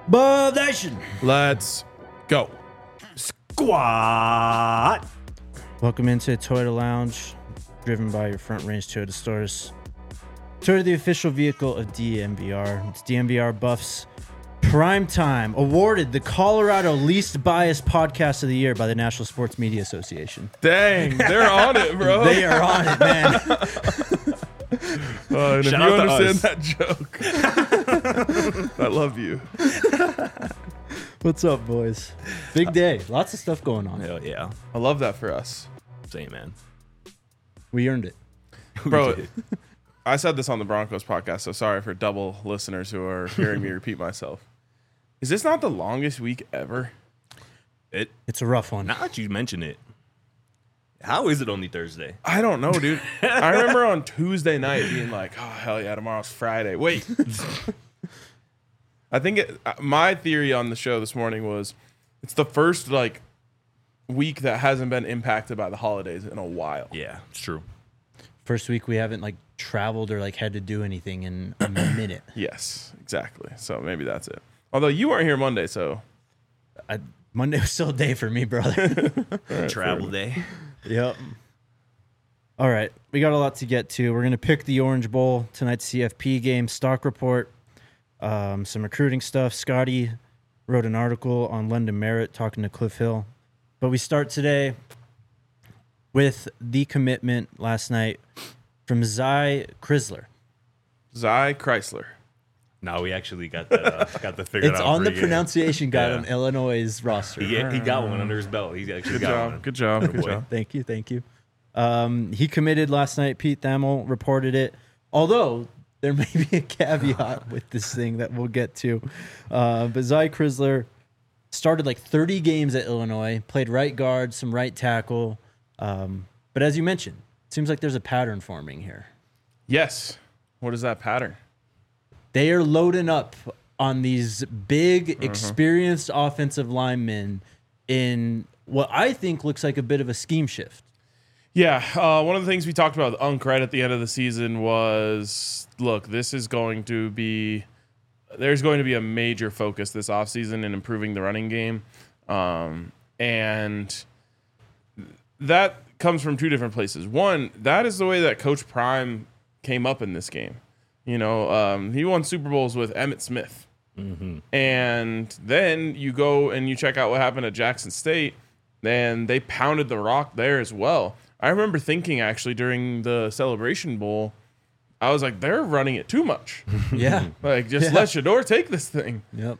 Bub Nation. Let's go. Squat. Welcome into Toyota Lounge, driven by your Front Range Toyota stores. Toyota, the official vehicle of DNVR. It's DNVR Buffs Primetime, awarded the Colorado Least Biased Podcast of the Year by the National Sports Media Association. Dang, they're on it, bro. They are on it, man. And if Shout you out to understand us. that joke, I love you. What's up, boys? Big day. Lots of stuff going on. Hell yeah. I love that for us. Same, man. We earned it. Bro, I said this on the Broncos podcast, so sorry for double listeners who are hearing me repeat myself. Is this not the longest week ever? It's a rough one. Now that you mention it, how is it only Thursday? I don't know, dude. I remember on Tuesday night being like, oh, hell yeah, tomorrow's Friday. Wait. I think my theory on the show this morning was it's the first, week that hasn't been impacted by the holidays in a while. Yeah, it's true. First week we haven't traveled or had to do anything in a minute. Yes, exactly. So maybe that's it. Although you weren't here Monday, so. Monday was still a day for me, brother. Travel day. Yep. All right. We got a lot to get to. We're going to pick the Orange Bowl, tonight's CFP game, stock report, some recruiting stuff. Scotty wrote an article on London Merritt talking to Cliff Hill. But we start today with the commitment last night from Zy Chrysler. Zy Chrysler. Now we actually got the figured It's out. on the pregame. pronunciation guide Yeah. on Illinois' roster. He got one under his belt. He actually got one. Good job. Good boy. job. Thank you. He committed last night. Pete Thamel reported it. Although there may be a caveat with this thing that we'll get to. But Zy Chrysler started 30 games at Illinois, played right guard, some right tackle. But as you mentioned, it seems like there's a pattern forming here. Yes. What is that pattern? They are loading up on these big, experienced offensive linemen in what I think looks like a bit of a scheme shift. Yeah. One of the things we talked about with Unk right at the end of the season was, look, there's going to be a major focus this offseason in improving the running game. And that comes from two different places. One, that is the way that Coach Prime came up in this game. He won Super Bowls with Emmitt Smith. Mm-hmm. And then you go and you check out what happened at Jackson State, and they pounded the rock there as well. I remember thinking, actually, during the Celebration Bowl, I was like, they're running it too much. Yeah. Just let Shador take this thing. Yep.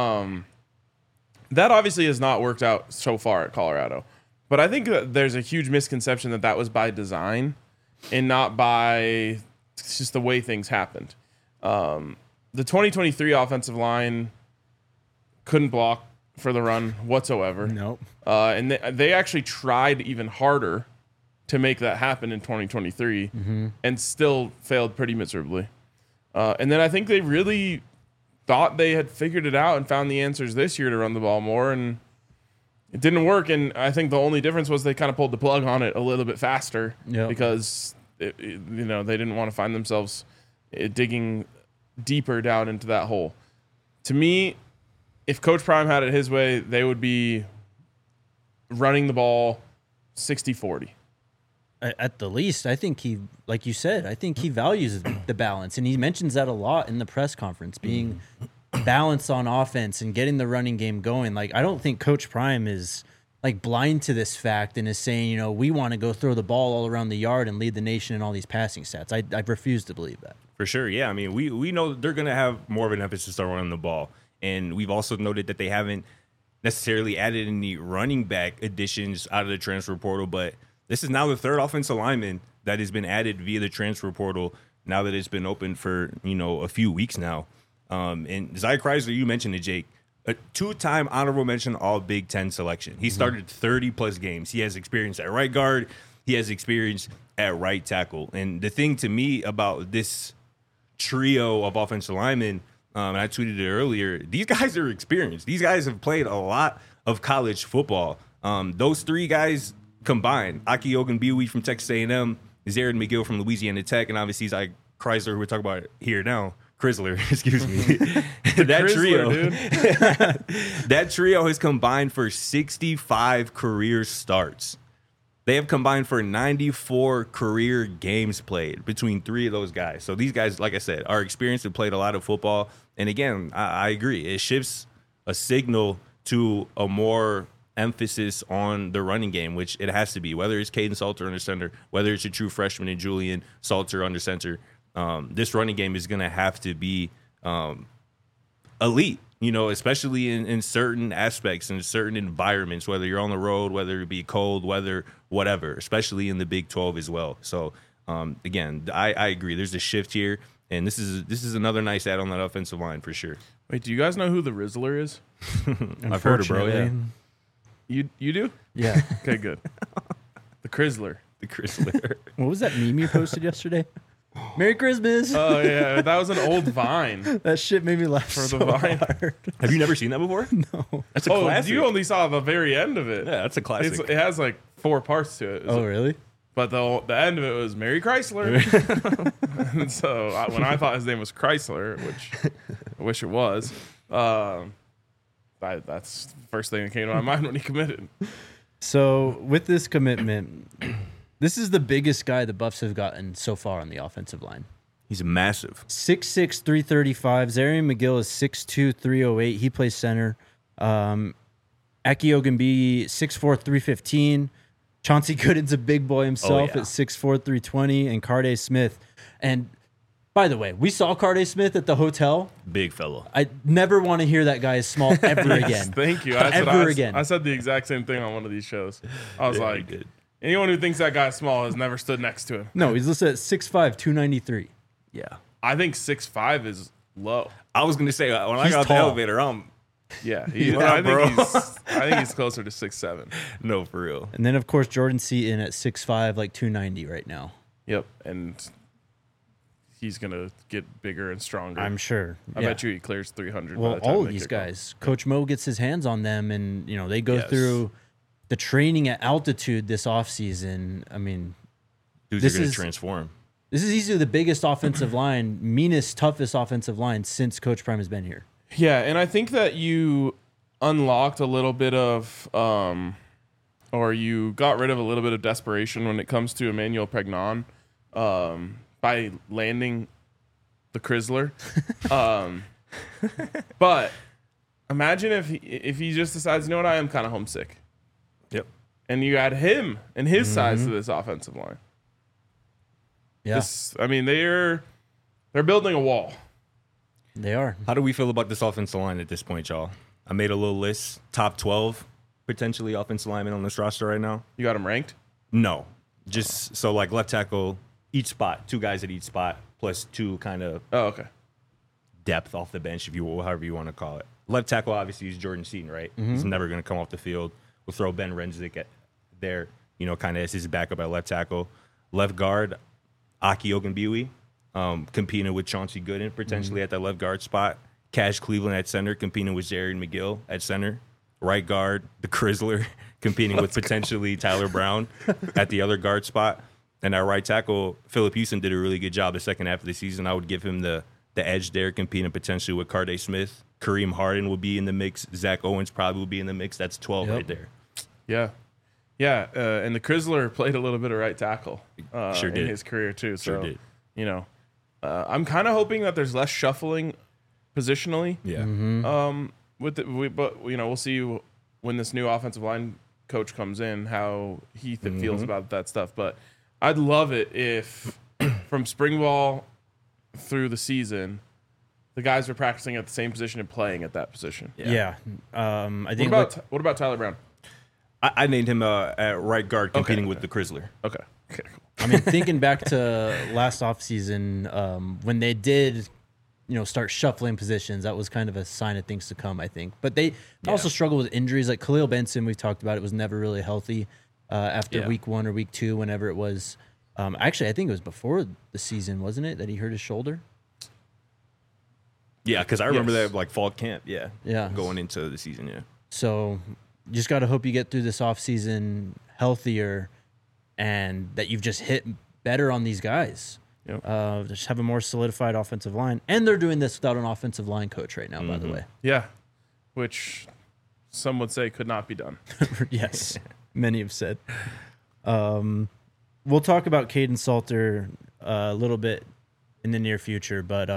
That obviously has not worked out so far at Colorado. But I think that there's a huge misconception that was by design and not by just the way things happened. The 2023 offensive line couldn't block for the run whatsoever. Nope. And they actually tried even harder to make that happen in 2023 and still failed pretty miserably. And then I think they really thought they had figured it out and found the answers this year to run the ball more, and it didn't work. And I think the only difference was they kind of pulled the plug on it a little bit faster because they didn't want to find themselves digging deeper down into that hole. To me, if Coach Prime had it his way, they would be running the ball 60-40. At the least, I think he, like you said, I think he values the balance. And he mentions that a lot in the press conference, being balanced on offense and getting the running game going. I don't think Coach Prime is blind to this fact and is saying, we want to go throw the ball all around the yard and lead the nation in all these passing stats. I refuse to believe that. For sure, yeah. I mean, we know they're going to have more of an emphasis on running the ball. And we've also noted that they haven't necessarily added any running back additions out of the transfer portal, but this is now the third offensive lineman that has been added via the transfer portal now that it's been open for, a few weeks now. And Zy Chrysler, you mentioned it, Jake, a two-time honorable mention All Big Ten selection. He started 30-plus games. He has experience at right guard. He has experience at right tackle. And the thing to me about this trio of offensive linemen, and I tweeted it earlier, these guys are experienced. These guys have played a lot of college football. Those three guys combined, Aki Ogunbiwi from Texas A&M, Zared McGill from Louisiana Tech, and obviously Zy Chrysler, who we're talking about here now, Chrysler, excuse me. That Chrysler, trio, dude. that trio has combined for 65 career starts. They have combined for 94 career games played between three of those guys. So these guys, like I said, are experienced and played a lot of football. And again, I agree. It shifts a signal to a more emphasis on the running game, which it has to be, whether it's Caden Salter under center, whether it's a true freshman and Julian Salter under center. This running game is going to have to be elite, especially in certain aspects, in certain environments, whether you're on the road, whether it be cold weather, whatever, especially in the Big 12 as well. So, again, I agree. There's a shift here, and this is another nice add on that offensive line for sure. Wait, do you guys know who the Rizzler is? I've heard it, bro. Yeah. You do? Yeah. Okay, good. The Chrysler. The Chrysler. What was that meme you posted yesterday? Merry Christmas. Oh yeah, that was an old Vine. That shit made me laugh For so the Vine. hard. Have you never seen that before? No. That's a classic. You only saw the very end of it. Yeah, that's a classic. It has like 4 parts to it. Oh, really? But the end of it was Merry Chrysler. And so when I thought his name was Chrysler, which I wish it was, that's the first thing that came to my mind when he committed. So with this commitment, this is the biggest guy the Buffs have gotten so far on the offensive line. He's massive. 6'6", 335. Zarian McGill is 6'2", 308. He plays center. Aki Ogunbiyi, 6'4", 315. Chauncey Gooden's a big boy himself at 6'4", 320. And Carday Smith. And by the way, we saw Carday Smith at the hotel. Big fellow. I never want to hear that guy is small ever again. Thank you. I said the exact same thing on one of these shows. I was like, good. Anyone who thinks that guy's small has never stood next to him. No, he's listed at 6'5", 293. Yeah. I think 6'5" is low. I was going to say, when I He's got off the tall. elevator, Yeah, Yeah, bro. I think he's closer to 6'7". no, for real. And then, of course, Jordan Seaton at 6'5", like 290 right now. Yep, and he's gonna get bigger and stronger. I'm sure. I Yeah. bet you he clears 300. by Well, the time all of they these kick off. guys, Coach Mo gets his hands on them, and they go Yes. through the training at altitude this offseason. I mean, Dudes This are going is- to transform. this is easily the biggest offensive line, meanest, toughest offensive line since Coach Prime has been here. Yeah, and I think that you unlocked a little bit of, or you got rid of a little bit of desperation when it comes to Emmanuel Pregnon by landing the Chrysler. But imagine if he just decides, you know what, I am kind of homesick. Yep. And you add him and his size to this offensive line. Yeah, They're building a wall. they are. How do we feel about this offensive line at this point, y'all? I made a little list. Top 12 potentially offensive linemen on this roster right now. You got them ranked? No. Just so like left tackle, each spot, 2 guys at each spot, plus 2 kind of Oh, okay. depth off the bench, however you want to call it. Left tackle obviously is Jordan Seaton, right? He's never going to come off the field. We'll throw Ben Renzik at there, kind of as his backup at left tackle. Left guard, Aki Ogunbiyi, competing with Chauncey Gooden potentially at that left guard spot. Cash Cleveland at center, competing with Zarian McGill at center. Right guard, the Chrysler, competing with potentially Tyler Brown at the other guard spot. And at right tackle, Philip Houston did a really good job the second half of the season. I would give him the edge there, competing potentially with Carday Smith. Kareem Harden will be in the mix. Zach Owens probably will be in the mix. That's 12 right there. Yeah. Yeah. And the Chrysler played a little bit of right tackle Sure in did. his career, too. Sure So, did. I'm kind of hoping that there's less shuffling positionally. Yeah. But we'll see when this new offensive line coach comes in how he feels about that stuff. But I'd love it if from spring ball through the season, the guys are practicing at the same position and playing at that position. Yeah. I What think what about Tyler Brown? I named him at right guard, competing Okay. with the Chrysler. Okay. Okay. Cool. I mean, thinking back to last offseason, when they did, start shuffling positions, that was kind of a sign of things to come, I think. But they also struggled with injuries. Like Khalil Benson, we've talked about, it was never really healthy after week 1 or week 2, whenever it was. Actually, I think it was before the season, wasn't it, that he hurt his shoulder? Yeah, because I remember Yes. that like fall camp. Yeah. Yeah. Going into the season. Yeah. So you just got to hope you get through this offseason healthier and that you've just hit better on these guys. Yep. Just have a more solidified offensive line. And they're doing this without an offensive line coach right now, by the way. Yeah, which some would say could not be done. Yes, many have said. We'll talk about Caden Salter a little bit in the near future, but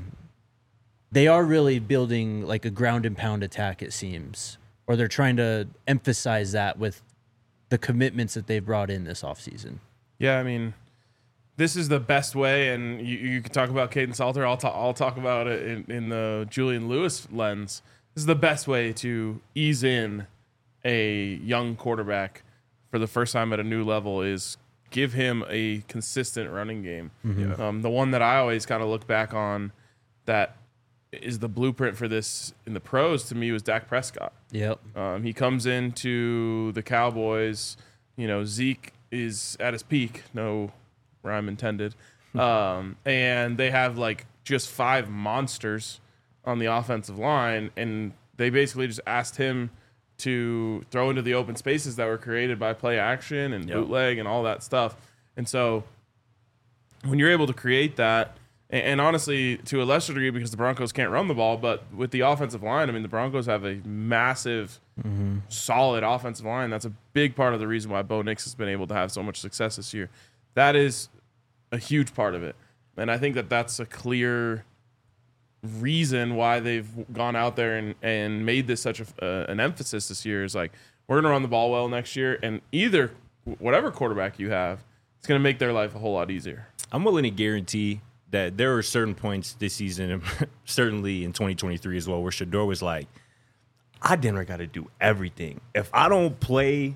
they are really building like a ground and pound attack, it seems, or they're trying to emphasize that with the commitments that they've brought in this offseason. Yeah, I mean, this is the best way, and you can talk about Caden Salter. I'll talk about it in the Julian Lewis lens. This is the best way to ease in a young quarterback for the first time at a new level is give him a consistent running game. Mm-hmm. The one that I always kind of look back on that is the blueprint for this in the pros to me was Dak Prescott. Yep. He comes into the Cowboys. Zeke is at his peak. No rhyme intended. And they have like just 5 monsters on the offensive line, and they basically just asked him to throw into the open spaces that were created by play action and bootleg and all that stuff. And so when you're able to create that, and honestly, to a lesser degree because the Broncos can't run the ball, but with the offensive line, I mean, the Broncos have a massive, solid offensive line. That's a big part of the reason why Bo Nix has been able to have so much success this year. That is a huge part of it. And I think that that's a clear reason why they've gone out there and made this such an emphasis this year is like, we're going to run the ball well next year, and either whatever quarterback you have, it's going to make their life a whole lot easier. I'm willing to guarantee that there are certain points this season, and certainly in 2023 as well, where Shedeur was like, I dinner got to do everything. If I don't play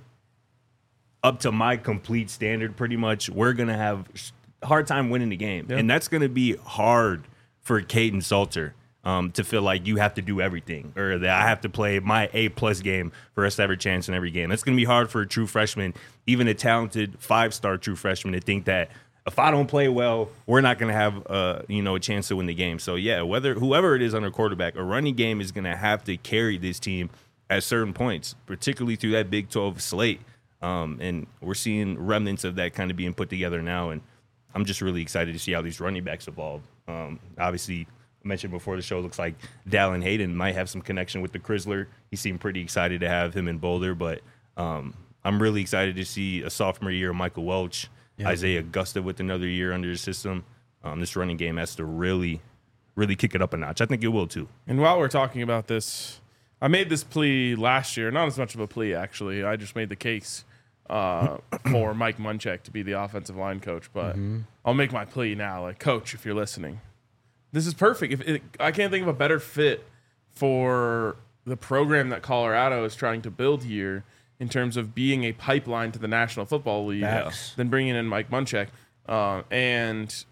up to my complete standard, pretty much, we're going to have a hard time winning the game. Yeah. And that's going to be hard for Caden Salter to feel like you have to do everything, or that I have to play my A+ game for us to have a chance in every game. That's going to be hard for a true freshman, even a talented 5-star true freshman, to think that if I don't play well, we're not going to have a chance to win the game. So yeah, whoever it is under quarterback, a running game is going to have to carry this team at certain points, particularly through that Big 12 slate. And we're seeing remnants of that kind of being put together now, and I'm just really excited to see how these running backs evolve. Obviously, I mentioned before the show, looks like Dallin Hayden might have some connection with the Chrysler. He seemed pretty excited to have him in Boulder, but I'm really excited to see a sophomore year of Michael Welch, Isaiah Augusta with another year under his system. This running game has to really, really kick it up a notch. I think it will too. And while we're talking about this, I made this plea last year, not as much of a plea actually. I just made the case for Mike Munchak to be the offensive line coach, but I'll make my plea now. Like, coach, if you're listening, this is perfect. I can't think of a better fit for the program that Colorado is trying to build here in terms of being a pipeline to the National Football League than bringing in Mike Munchak. And,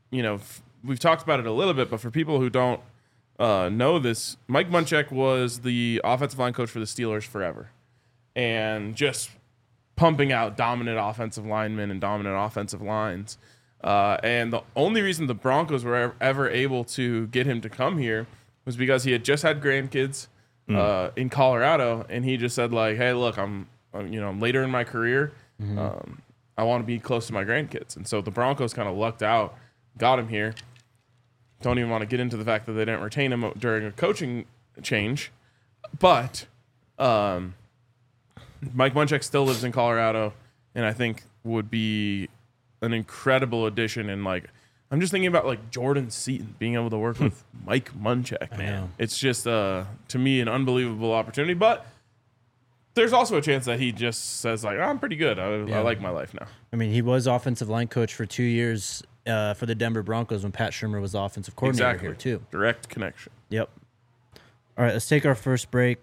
we've talked about it a little bit, but for people who don't know this, Mike Munchak was the offensive line coach for the Steelers forever and just pumping out dominant offensive linemen and dominant offensive lines. And the only reason the Broncos were ever able to get him to come here was because he had just had grandkids in Colorado, and he just said like, "Hey, look, I'm later in my career. I want to be close to my grandkids." And so the Broncos kind of lucked out, got him here. Don't even want to get into the fact that they didn't retain him during a coaching change, but Mike Munchak still lives in Colorado, and I think would be an incredible addition. And like, I'm just thinking about like Jordan Seaton being able to work with Mike Munchak, man. It's just to me an unbelievable opportunity. But there's also a chance that he just says like, I'm pretty good. I like my life now. I mean, he was offensive line coach for 2 years for the Denver Broncos when Pat Shurmur was the offensive coordinator here too. Direct connection. Yep. All right, let's take our first break.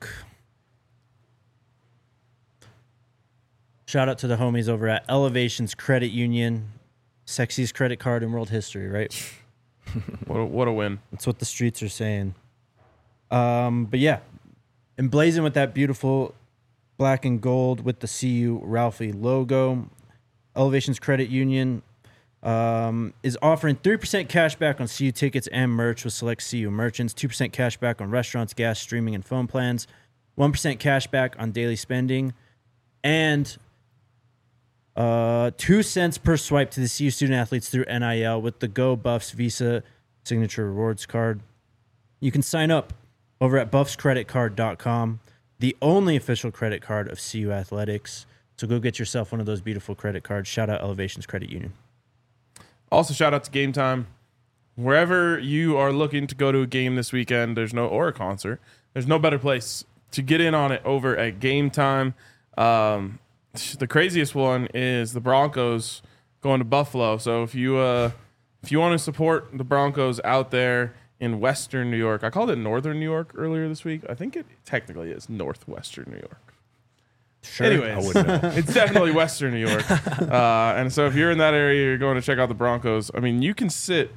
Shout out to the homies over at Elevations Credit Union. Sexiest credit card in world history, right? What a win. That's what the streets are saying. But yeah, emblazoned with that beautiful black and gold with the CU Ralphie logo. Elevations Credit Union is offering 3% cash back on CU tickets and merch with select CU merchants, 2% cash back on restaurants, gas, streaming, and phone plans, 1% cash back on daily spending, and 2 cents per swipe to the CU student athletes through NIL with the Go Buffs Visa Signature Rewards card. You can sign up over at buffscreditcard.com, the only official credit card of CU Athletics. So go get yourself one of those beautiful credit cards. Shout out Elevations Credit Union. Also, shout out to Game Time. Wherever you are looking to go to a game this weekend, or a concert, there's no better place to get in on it over at Game Time. The craziest one is the Broncos going to Buffalo. So if you want to support the Broncos out there in Western New York, I called it Northern New York earlier this week. I think it technically is Northwestern New York. Sure. Anyways, I wouldn't know. it's definitely Western New York. And so if you're in that area, you're going to check out the Broncos. I mean, you can sit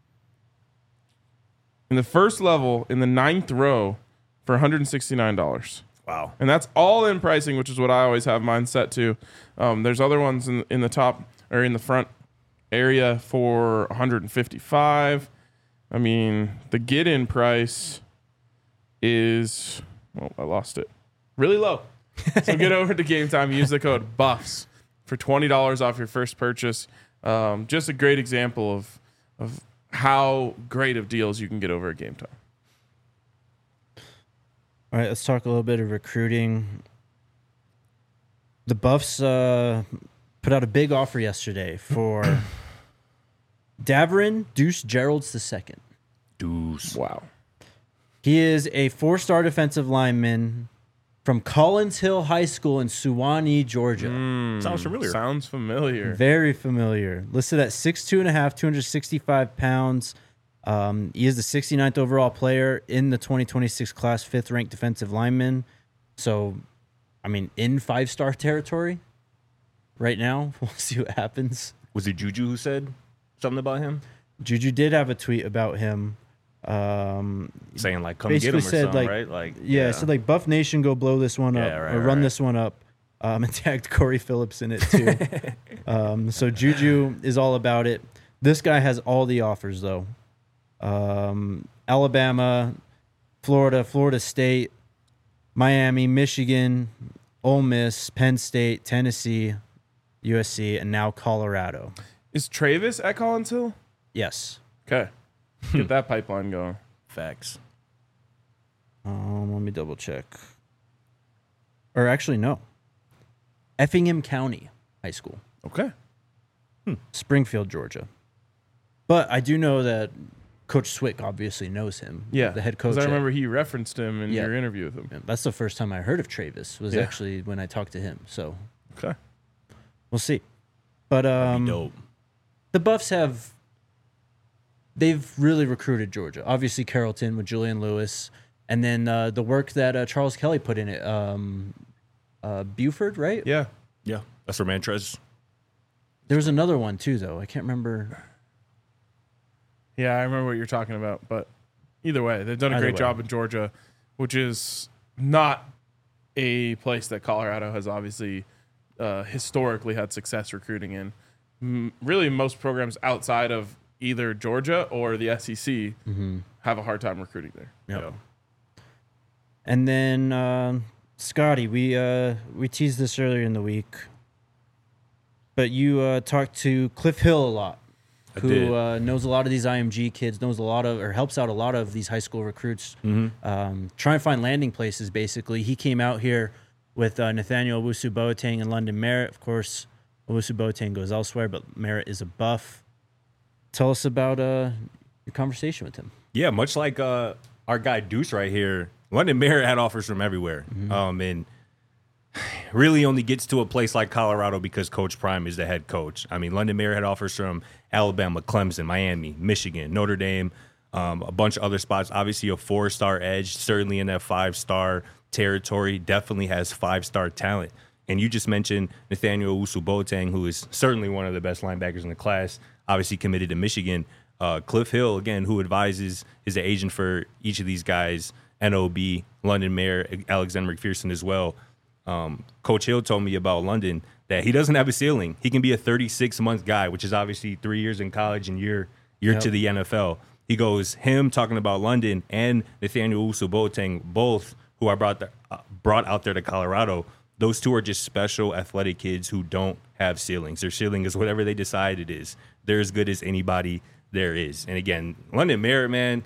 in the first level in the 9th row for $169. Wow. And that's all in pricing, which is what I always have mine set to. There's other ones in the top or in the front area for $155. I mean, the get-in price is, I lost it. Really low. So get over to Game Time. Use the code BUFFS for $20 off your first purchase. Just a great example of how great of deals you can get over at Game Time. All right, let's talk a little bit of recruiting. The Buffs put out a big offer yesterday for Daverin Deuce Geralds II. Deuce. Wow. He is a 4-star defensive lineman from Collins Hill High School in Suwanee, Georgia. Sounds familiar. Sounds familiar. Very familiar. Listed at 6'2.5", 265 pounds. He is the 69th overall player in the 2026 class, 5th ranked defensive lineman. So, I mean, in 5-star territory right now. We'll see what happens. Was it Juju who said something about him? Juju did have a tweet about him. Saying, like, come get him or said, something, like, right? Like, Yeah, it said, like, Buff Nation, go blow this one up or run this one up. And tagged Corey Phillips in it, too. So Juju is all about it. This guy has all the offers, though. Alabama, Florida State, Miami, Michigan, Ole Miss, Penn State, Tennessee, USC, and now Colorado. Is Travis at Collins Hill? Yes. Okay. Get that pipeline going. Facts. Let me double check. Or actually, no. Effingham County High School, Okay. Springfield, Georgia. But I do know that Coach Swick obviously knows him. Yeah. The head coach. Because I at- remember he referenced him in Yeah. your interview with him. Yeah, that's the first time I heard of Travis was Yeah. actually when I talked to him. So Okay. we'll see. But That'd be dope. the Buffs they've really recruited Georgia. Obviously Carrollton with Julian Lewis, and then the work that Charles Kelly put in it. Buford, right? Yeah. Yeah. That's for Mantrez. There was another one too, though. I can't remember. Yeah, I remember what you're talking about. But either way, they've done a Either great way. job in Georgia, which is not a place that Colorado has obviously historically had success recruiting in. Really, most programs outside of either Georgia or the SEC have a hard time recruiting there. Yep. So, And then Scotty, we teased this earlier in the week, but you talked to Cliff Hill a lot, who did. knows a lot of these IMG kids, knows a lot of, or helps out a lot of these high school recruits, trying to find landing places. Basically, he came out here with Nathaniel Owusu-Boateng and London Merritt. Of course, Owusu-Boateng goes elsewhere, but Merritt is a Buff. Tell us about your conversation with him. Yeah, much like our guy Deuce right here, London Merritt had offers from everywhere. And really only gets to a place like Colorado because Coach Prime is the head coach. I mean, London Merritt had offers from Alabama, Clemson, Miami, Michigan, Notre Dame, a bunch of other spots. Obviously a 4-star edge, certainly in that 5-star territory, definitely has 5-star talent. And you just mentioned Nathaniel Owusu-Boateng, who is certainly one of the best linebackers in the class, obviously committed to Michigan. Cliff Hill, again, who advises, is the agent for each of these guys, NOB, London Merritt, Alexander McPherson as well. Coach Hill told me about London that he doesn't have a ceiling. He can be a 36-month guy, which is obviously 3 years in college and year to the NFL. He goes, him talking about London and Nathaniel Owusu-Boateng, both who are brought out there to Colorado, those two are just special athletic kids who don't have ceilings. Their ceiling is whatever they decide it is. They're as good as anybody there is. And again, London Merritt, man,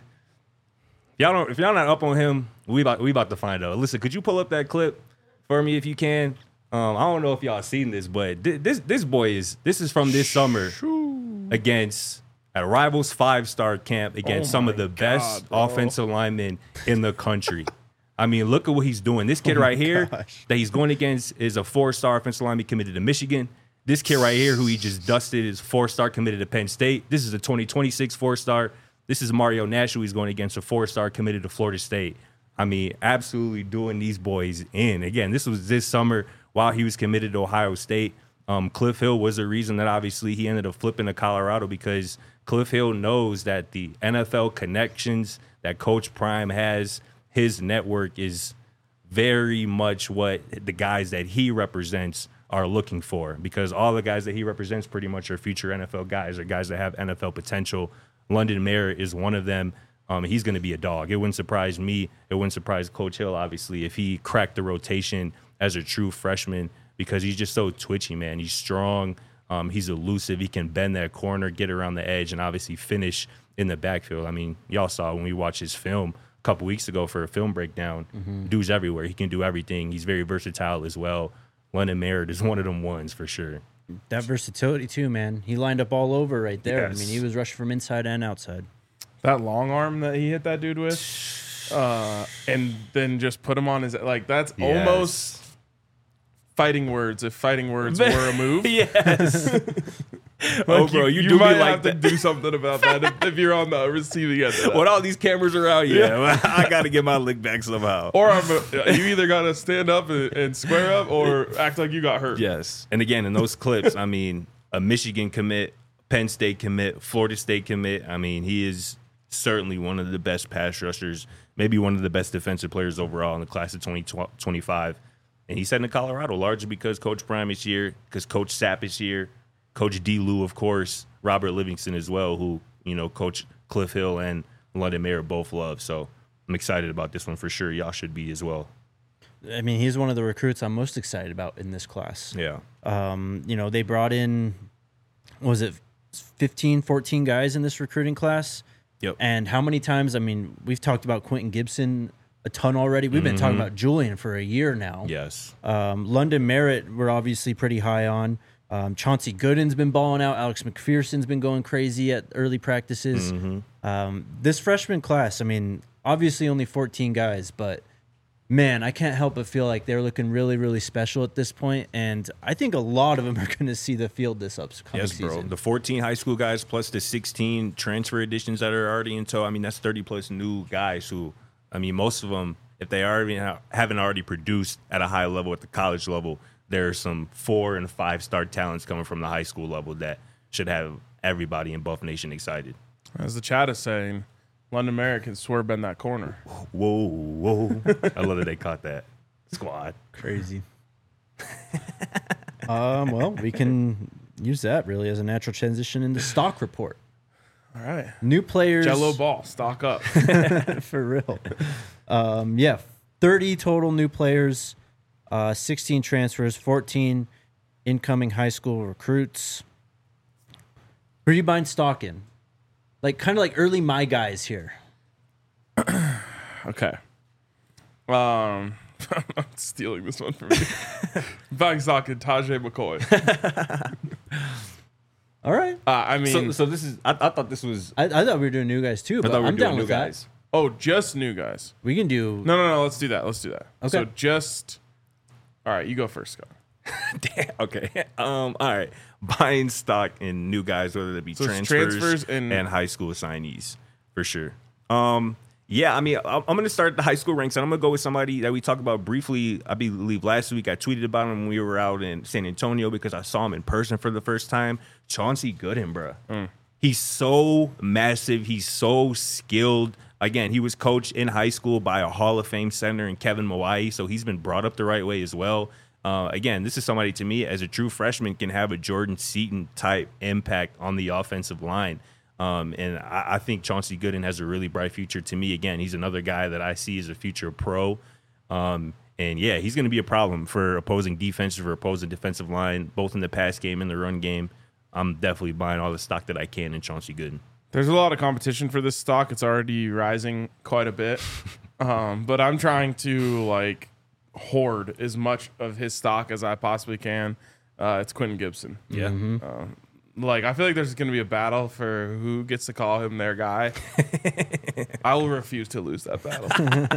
if y'all not up on him, we about to find out. Listen, could you pull up that clip for me if you can? I don't know if y'all seen this, but this boy this is from this summer against a Rivals 5-star camp against some of the best offensive linemen in the country. I mean, look at what he's doing. This kid right here that he's going against is a 4-star offensive lineman committed to Michigan. This kid right here who he just dusted is 4-star committed to Penn State. This is a 2026 4-star. This is Mario Nash who he's going against, a 4-star committed to Florida State. I mean, absolutely doing these boys in. Again, this was this summer while he was committed to Ohio State. Cliff Hill was the reason that obviously he ended up flipping to Colorado, because Cliff Hill knows that the NFL connections that Coach Prime has, his network is very much what the guys that he represents are looking for, because all the guys that he represents pretty much are future NFL guys, or guys that have NFL potential. London Merritt is one of them. He's going to be a dog. It wouldn't surprise me. It wouldn't surprise Coach Hill, obviously, if he cracked the rotation as a true freshman, because he's just so twitchy, man. He's strong. He's elusive. He can bend that corner, get around the edge, and obviously finish in the backfield. I mean, y'all saw when we watched his film a couple weeks ago for a film breakdown. Dude's everywhere. He can do everything. He's very versatile as well. London Merritt is one of them ones for sure. That versatility too, man. He lined up all over right there. Yes. I mean, he was rushing from inside and outside. That long arm that he hit that dude with, and then just put him on his, like, that's almost fighting words, if fighting words were a move. Yes. Like, Oh, bro, you do might be like have that. to do something about that if you're on the receiving end of that. When all these cameras are out, I got to get my lick back somehow. Or you either got to stand up and square up, or act like you got hurt. Yes. And again, in those clips, I mean, a Michigan commit, Penn State commit, Florida State commit. I mean, he is certainly one of the best pass rushers, maybe one of the best defensive players overall in the class of 2025. And he's heading to Colorado largely because Coach Prime is here, because Coach Sapp is here, Coach D. Lou, of course, Robert Livingston as well, who, you know, Coach Cliff Hill and London Merritt both love. So I'm excited about this one for sure. Y'all should be as well. I mean, he's one of the recruits I'm most excited about in this class. Yeah. You know, they brought in, was it 15, 14 guys in this recruiting class? Yep. And how many times, I mean, we've talked about Quentin Gibson a ton already. We've been talking about Julian for a year now. Yes. London Merritt, we're obviously pretty high on. Chauncey Gooden's been balling out. Alex McPherson's been going crazy at early practices. This freshman class, I mean, obviously only 14 guys, but man, I can't help but feel like they're looking really, really special at this point. And I think a lot of them are going to see the field this upcoming season. Yes, bro. The 14 high school guys plus the 16 transfer additions that are already in tow. I mean, that's 30 plus new guys who, I mean, most of them, if they haven't already produced at a high level at the college level, there's some 4- and 5-star talents coming from the high school level that should have everybody in Buff Nation excited. As the chat is saying, London Merritt can swerve bend that corner. Whoa. I love that they caught that. Squad. Crazy. Well, we can use that really as a natural transition into stock report. All right. New players. Jello ball, stock up. For real. 30 total new players, 16 transfers, 14 incoming high school recruits. Who are you buying stock in? Like, kind of like early my guys here. Okay. I'm stealing this one from you. Buying stock in Tajay McCoy. All right. I mean, So this is, I thought this was, I thought we were doing new guys too, but I'm down with that. oh, just new guys. We can do. No. Let's do that. Okay. So just. All right, you go first, Scott. damn, okay. All right. Buying stock in new guys, whether it be So it's transfers and high school signees, for sure. Yeah, I mean, I'm going to start at the high school ranks, and I'm going to go with somebody that we talked about briefly, I believe last week. I tweeted about him when we were out in San Antonio because I saw him in person for the first time. Chauncey Gooden, bro. He's so massive. He's so skilled. Again, he was coached in high school by a Hall of Fame center in Kevin Mawai, so he's been brought up the right way as well. Again, this is somebody, to me, as a true freshman, can have a Jordan Seaton-type impact on the offensive line. And I think Chauncey Gooden has a really bright future. To me, again, he's another guy that I see as a future pro. And yeah, he's going to be a problem for opposing defenses, for opposing defensive line, both in the pass game and the run game. I'm definitely buying all the stock that I can in Chauncey Gooden. There's a lot of competition for this stock. It's already rising quite a bit. But I'm trying to like hoard as much of his stock as I possibly can. It's Quentin Gibson. Yeah. Like, I feel like there's going to be a battle for who gets to call him their guy. I will refuse to lose that battle.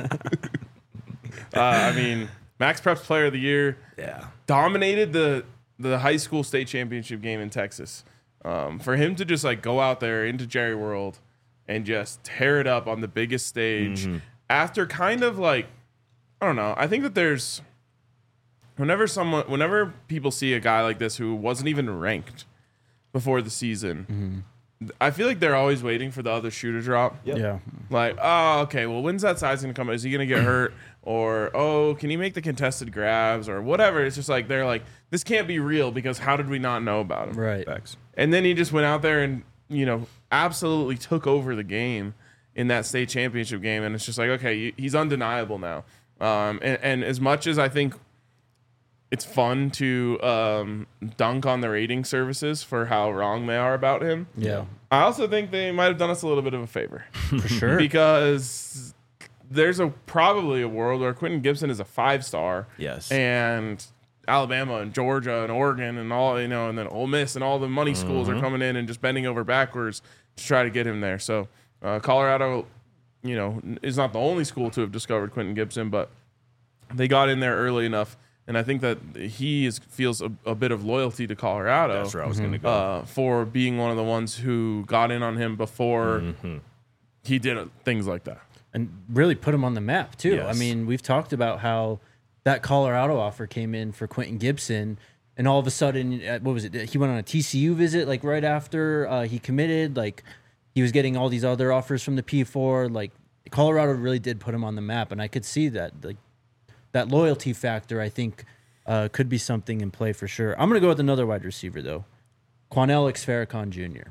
I mean, Max Preps Player of the Year. Yeah. Dominated the high school state championship game in Texas. For him to just like go out there into Jerry World and just tear it up on the biggest stage after kind of like, I don't know. I think that there's whenever people see a guy like this who wasn't even ranked before the season, I feel like they're always waiting for the other shoe to drop. Yeah. Like, oh, okay, well, when's that size going to come? Is he going to get hurt? Or, oh, can he make the contested grabs? Or whatever. It's just like, they're like, this can't be real because how did we not know about him? Right. Facts. And then he just went out there and, absolutely took over the game in that state championship game. And it's just like, okay, he's undeniable now. And as much as I think it's fun to dunk on the rating services for how wrong they are about him, Yeah. I also think they might have done us a little bit of a favor. For sure. Because there's probably a world where Quentin Gibson is a 5-star. Yes. And Alabama and Georgia and Oregon and all, and then Ole Miss and all the money schools are coming in and just bending over backwards to try to get him there. So Colorado, is not the only school to have discovered Quentin Gibson, but they got in there early enough. And I think that he feels a bit of loyalty to Colorado. That's where I was going to go. For being one of the ones who got in on him before he did things like that. And really put him on the map, too. Yes. I mean, we've talked about how that Colorado offer came in for Quentin Gibson, and all of a sudden, what was it? He went on a TCU visit, like, right after he committed. Like, he was getting all these other offers from the P4. Like, Colorado really did put him on the map, and I could see that. Like, that loyalty factor, I think, could be something in play for sure. I'm going to go with another wide receiver, though. Quanell Farrakhan Jr.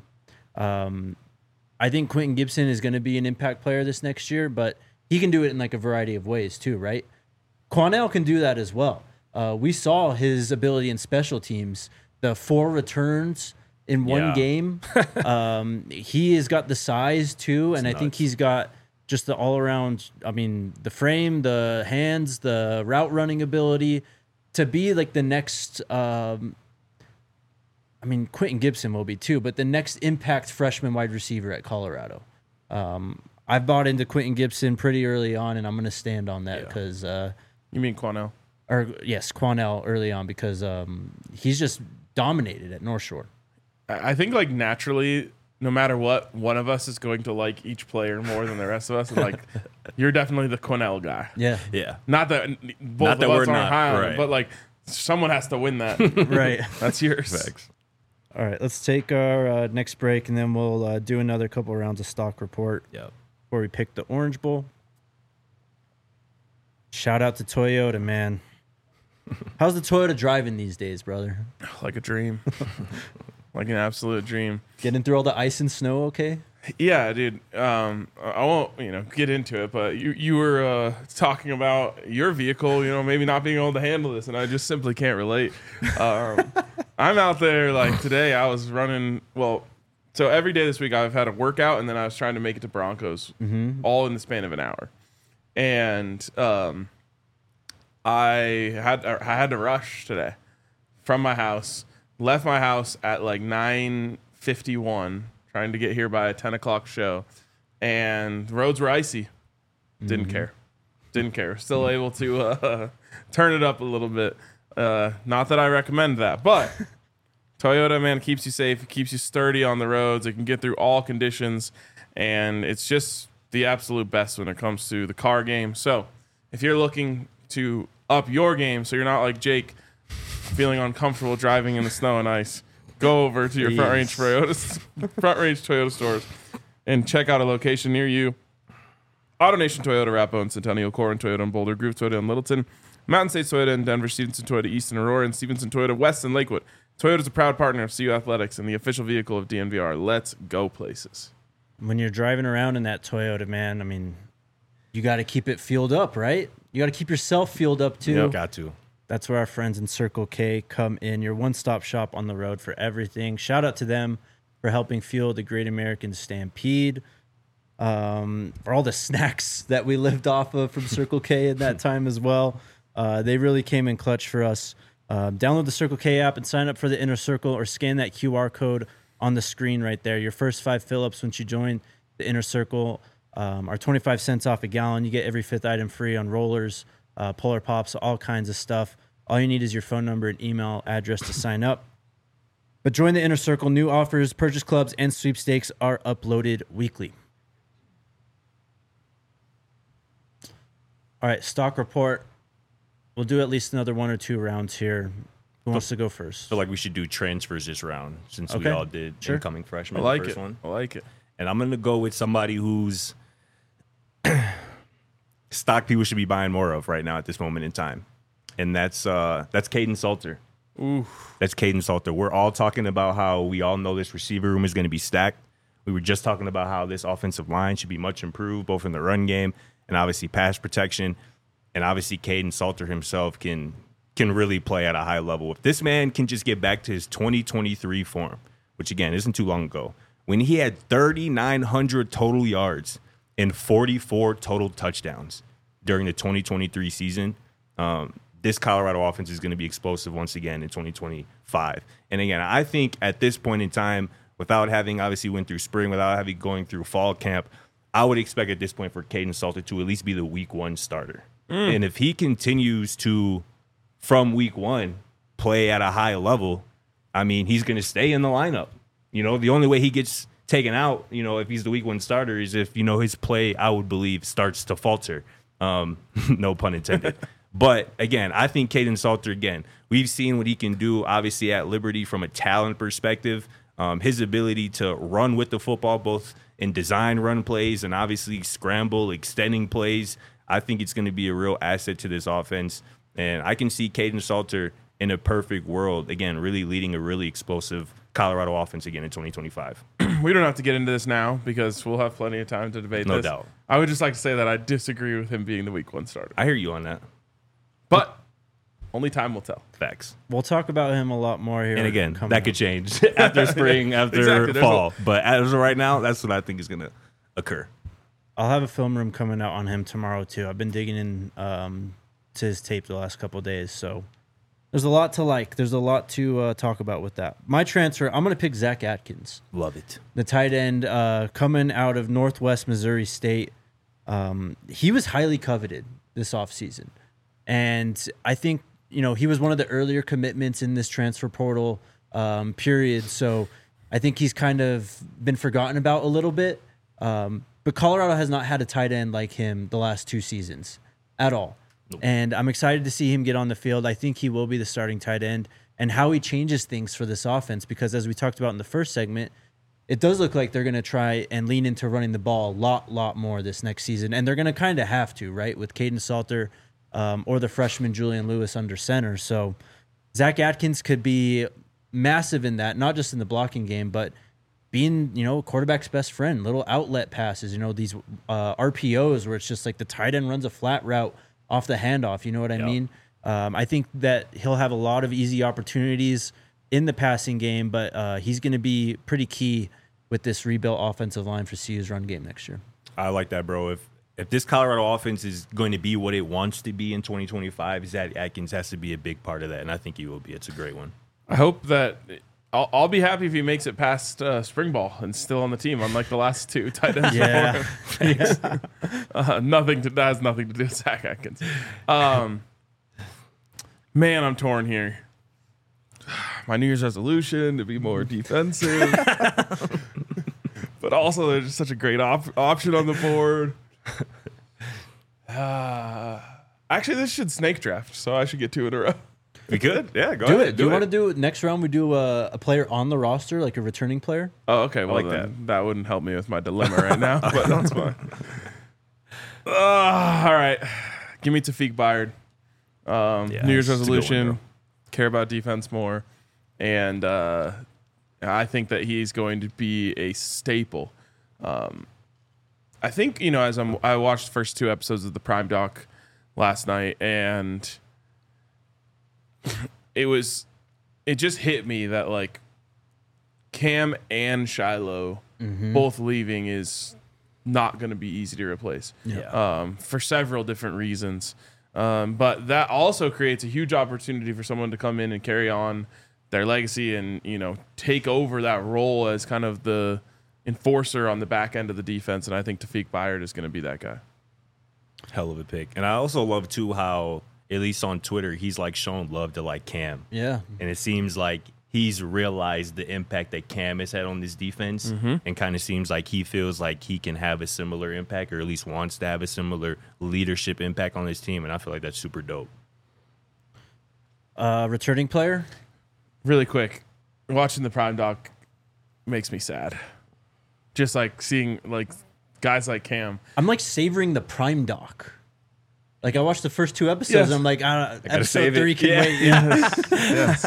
I think Quentin Gibson is going to be an impact player this next year, but he can do it in like a variety of ways too, right? Quanell can do that as well. We saw his ability in special teams, the 4 returns in one game. He has got the size too, and I think he's got just the all-around, the frame, the hands, the route running ability to be like the next, Quentin Gibson will be too, but the next impact freshman wide receiver at Colorado. I've bought into Quentin Gibson pretty early on, and I'm going to stand on that because... You mean Quanell? Yes, Quanell early on because he's just dominated at North Shore. I think like naturally, no matter what, one of us is going to like each player more than the rest of us. And like, you're definitely the Quanell guy. Yeah. Yeah. Not that both of us aren't high on him, right. but like someone has to win that. Right. That's yours. Facts. All right, let's take our next break, and then we'll do another couple rounds of stock report before we pick the Orange Bowl. Shout out to Toyota, man. How's the Toyota driving these days, brother? Like a dream. Like an absolute dream. Getting through all the ice and snow okay? Yeah, dude. I won't, get into it, but you were talking about your vehicle, maybe not being able to handle this, and I just simply can't relate. I'm out there, like today I was running, so every day this week I've had a workout, and then I was trying to make it to Broncos, all in the span of an hour. And I had to rush today from my house, left my house at like 9:51, trying to get here by a 10 o'clock show, and the roads were icy. Didn't care. Still able to turn it up a little bit. Not that I recommend that, but Toyota, man, keeps you safe. It keeps you sturdy on the roads. It can get through all conditions, and it's just the absolute best when it comes to the car game. So if you're looking to up your game so you're not like Jake feeling uncomfortable driving in the snow and ice, go over to your Front Range Toyota stores and check out a location near you. AutoNation Toyota, Rapo, Centennial, Corin Toyota in Boulder, Groove Toyota in Littleton, Mountain States Toyota in Denver, Stevenson Toyota East in Aurora, and Stevenson Toyota West in Lakewood. Toyota is a proud partner of CU Athletics and the official vehicle of DNVR. Let's go places. When you're driving around in that Toyota, man, you got to keep it fueled up, right? you got to keep yourself fueled up too. Yep. Got to. That's where our friends in Circle K come in, your one-stop shop on the road for everything. Shout out to them for helping fuel the Great American Stampede, for all the snacks that we lived off of from Circle K in that time as well. They really came in clutch for us. Download the Circle K app and sign up for the Inner Circle, or scan that QR code on the screen right there. Your first 5 fill-ups once you join the Inner Circle are 25 cents off a gallon. You get every 5th item free on rollers, Polar Pops, all kinds of stuff. All you need is your phone number and email address to sign up. But join the Inner Circle. New offers, purchase clubs, and sweepstakes are uploaded weekly. All right, stock report. We'll do at least another 1 or 2 rounds here. Who wants to go first? I feel like we should do transfers this round since we Okay. all did Sure. incoming freshmen. I like the it. first one. I like it. And I'm going to go with somebody who's stock people should be buying more of right now at this moment in time. And that's Caden Salter. Ooh. That's Caden Salter. We're all talking about how we all know this receiver room is going to be stacked. We were just talking about how this offensive line should be much improved, both in the run game and obviously pass protection. And obviously Caden Salter himself can really play at a high level. If this man can just get back to his 2023 form, which again isn't too long ago, when he had 3,900 total yards and 44 total touchdowns during the 2023 season, this Colorado offense is going to be explosive once again in 2025. And again, I think at this point in time, without having obviously went through spring, without having going through fall camp, I would expect at this point for Caden Salter to at least be the week 1 starter. And if he continues to, from week 1, play at a high level, I mean, he's going to stay in the lineup. You know, the only way he gets taken out, you know, if he's the week 1 starter is if, you know, his play, I would believe, starts to falter. No pun intended. But again, I think Caden Salter, again, we've seen what he can do, obviously, at Liberty from a talent perspective. His ability to run with the football, both in design run plays and obviously scramble, extending plays. I think it's going to be a real asset to this offense. And I can see Caden Salter in a perfect world, again, really leading a really explosive Colorado offense again in 2025. We don't have to get into this now because we'll have plenty of time to debate this. No doubt. I would just like to say that I disagree with him being the week 1 starter. I hear you on that. But only time will tell. Facts. We'll talk about him a lot more here. And again, coming that up. could change after spring, after Exactly. There's fall. But as of right now, that's what I think is going to occur. I'll have a film room coming out on him tomorrow too. I've been digging in to his tape the last couple of days, so there's a lot to like. There's a lot to talk about with that. My transfer, I'm going to pick Zach Atkins, Love it. the tight end coming out of Northwest Missouri State. He was highly coveted this offseason. And I think, you know, he was one of the earlier commitments in this transfer portal period. So I think he's kind of been forgotten about a little bit. But Colorado has not had a tight end like him the last 2 seasons at all. Nope. And I'm excited to see him get on the field. I think he will be the starting tight end, and how he changes things for this offense, because as we talked about in the first segment, it does look like they're going to try and lean into running the ball a lot more this next season. And they're going to kind of have to, right, with Caden Salter or the freshman Julian Lewis under center. So Zach Atkins could be massive in that, not just in the blocking game, but being, you know, quarterback's best friend, little outlet passes, you know, these RPOs where it's just like the tight end runs a flat route off the handoff. You know what I mean? I think that he'll have a lot of easy opportunities in the passing game, but he's going to be pretty key with this rebuilt offensive line for CU's run game next year. I like that, bro. If this Colorado offense is going to be what it wants to be in 2025, Zach Atkins has to be a big part of that, and I think he will be. It's a great one. I hope that I'll be happy if he makes it past spring ball and still on the team, unlike the last 2 tight ends. Yeah. That has nothing to do with Zach Atkins. Man, I'm torn here. My New Year's resolution to be more defensive, but also there's just such a great option on the board. Actually, this should snake draft, so I should get 2 in a row. We could? Yeah, go Do ahead. it. Do you want to do it next round? We do a player on the roster, like a returning player. Oh, okay. Well, like then that wouldn't help me with my dilemma right now, but that's fine. All right. Give me Tafik Bayard. New Year's it's a good one, resolution, bro. care about defense more. And I think that he's going to be a staple. I think, you know, as I watched the first 2 episodes of the Prime Doc last night, and it just hit me that like Cam and Shiloh both leaving is not going to be easy to replace. For several different reasons. But that also creates a huge opportunity for someone to come in and carry on their legacy and, you know, take over that role as kind of the enforcer on the back end of the defense. And I think Tawfiq Byard is going to be that guy. Hell of a pick. And I also love too how, at least on Twitter, he's like showing love to like Cam. Yeah. And it seems like he's realized the impact that Cam has had on this defense, and kind of seems like he feels like he can have a similar impact, or at least wants to have a similar leadership impact on his team. And I feel like that's super dope. Returning player? Really quick, watching the Prime Doc makes me sad. Just like seeing like guys like Cam. I'm like savoring the Prime Doc. Like I watched the first 2 episodes, Yes. and I'm like, episode save it. 3 can Yeah. wait. Yes.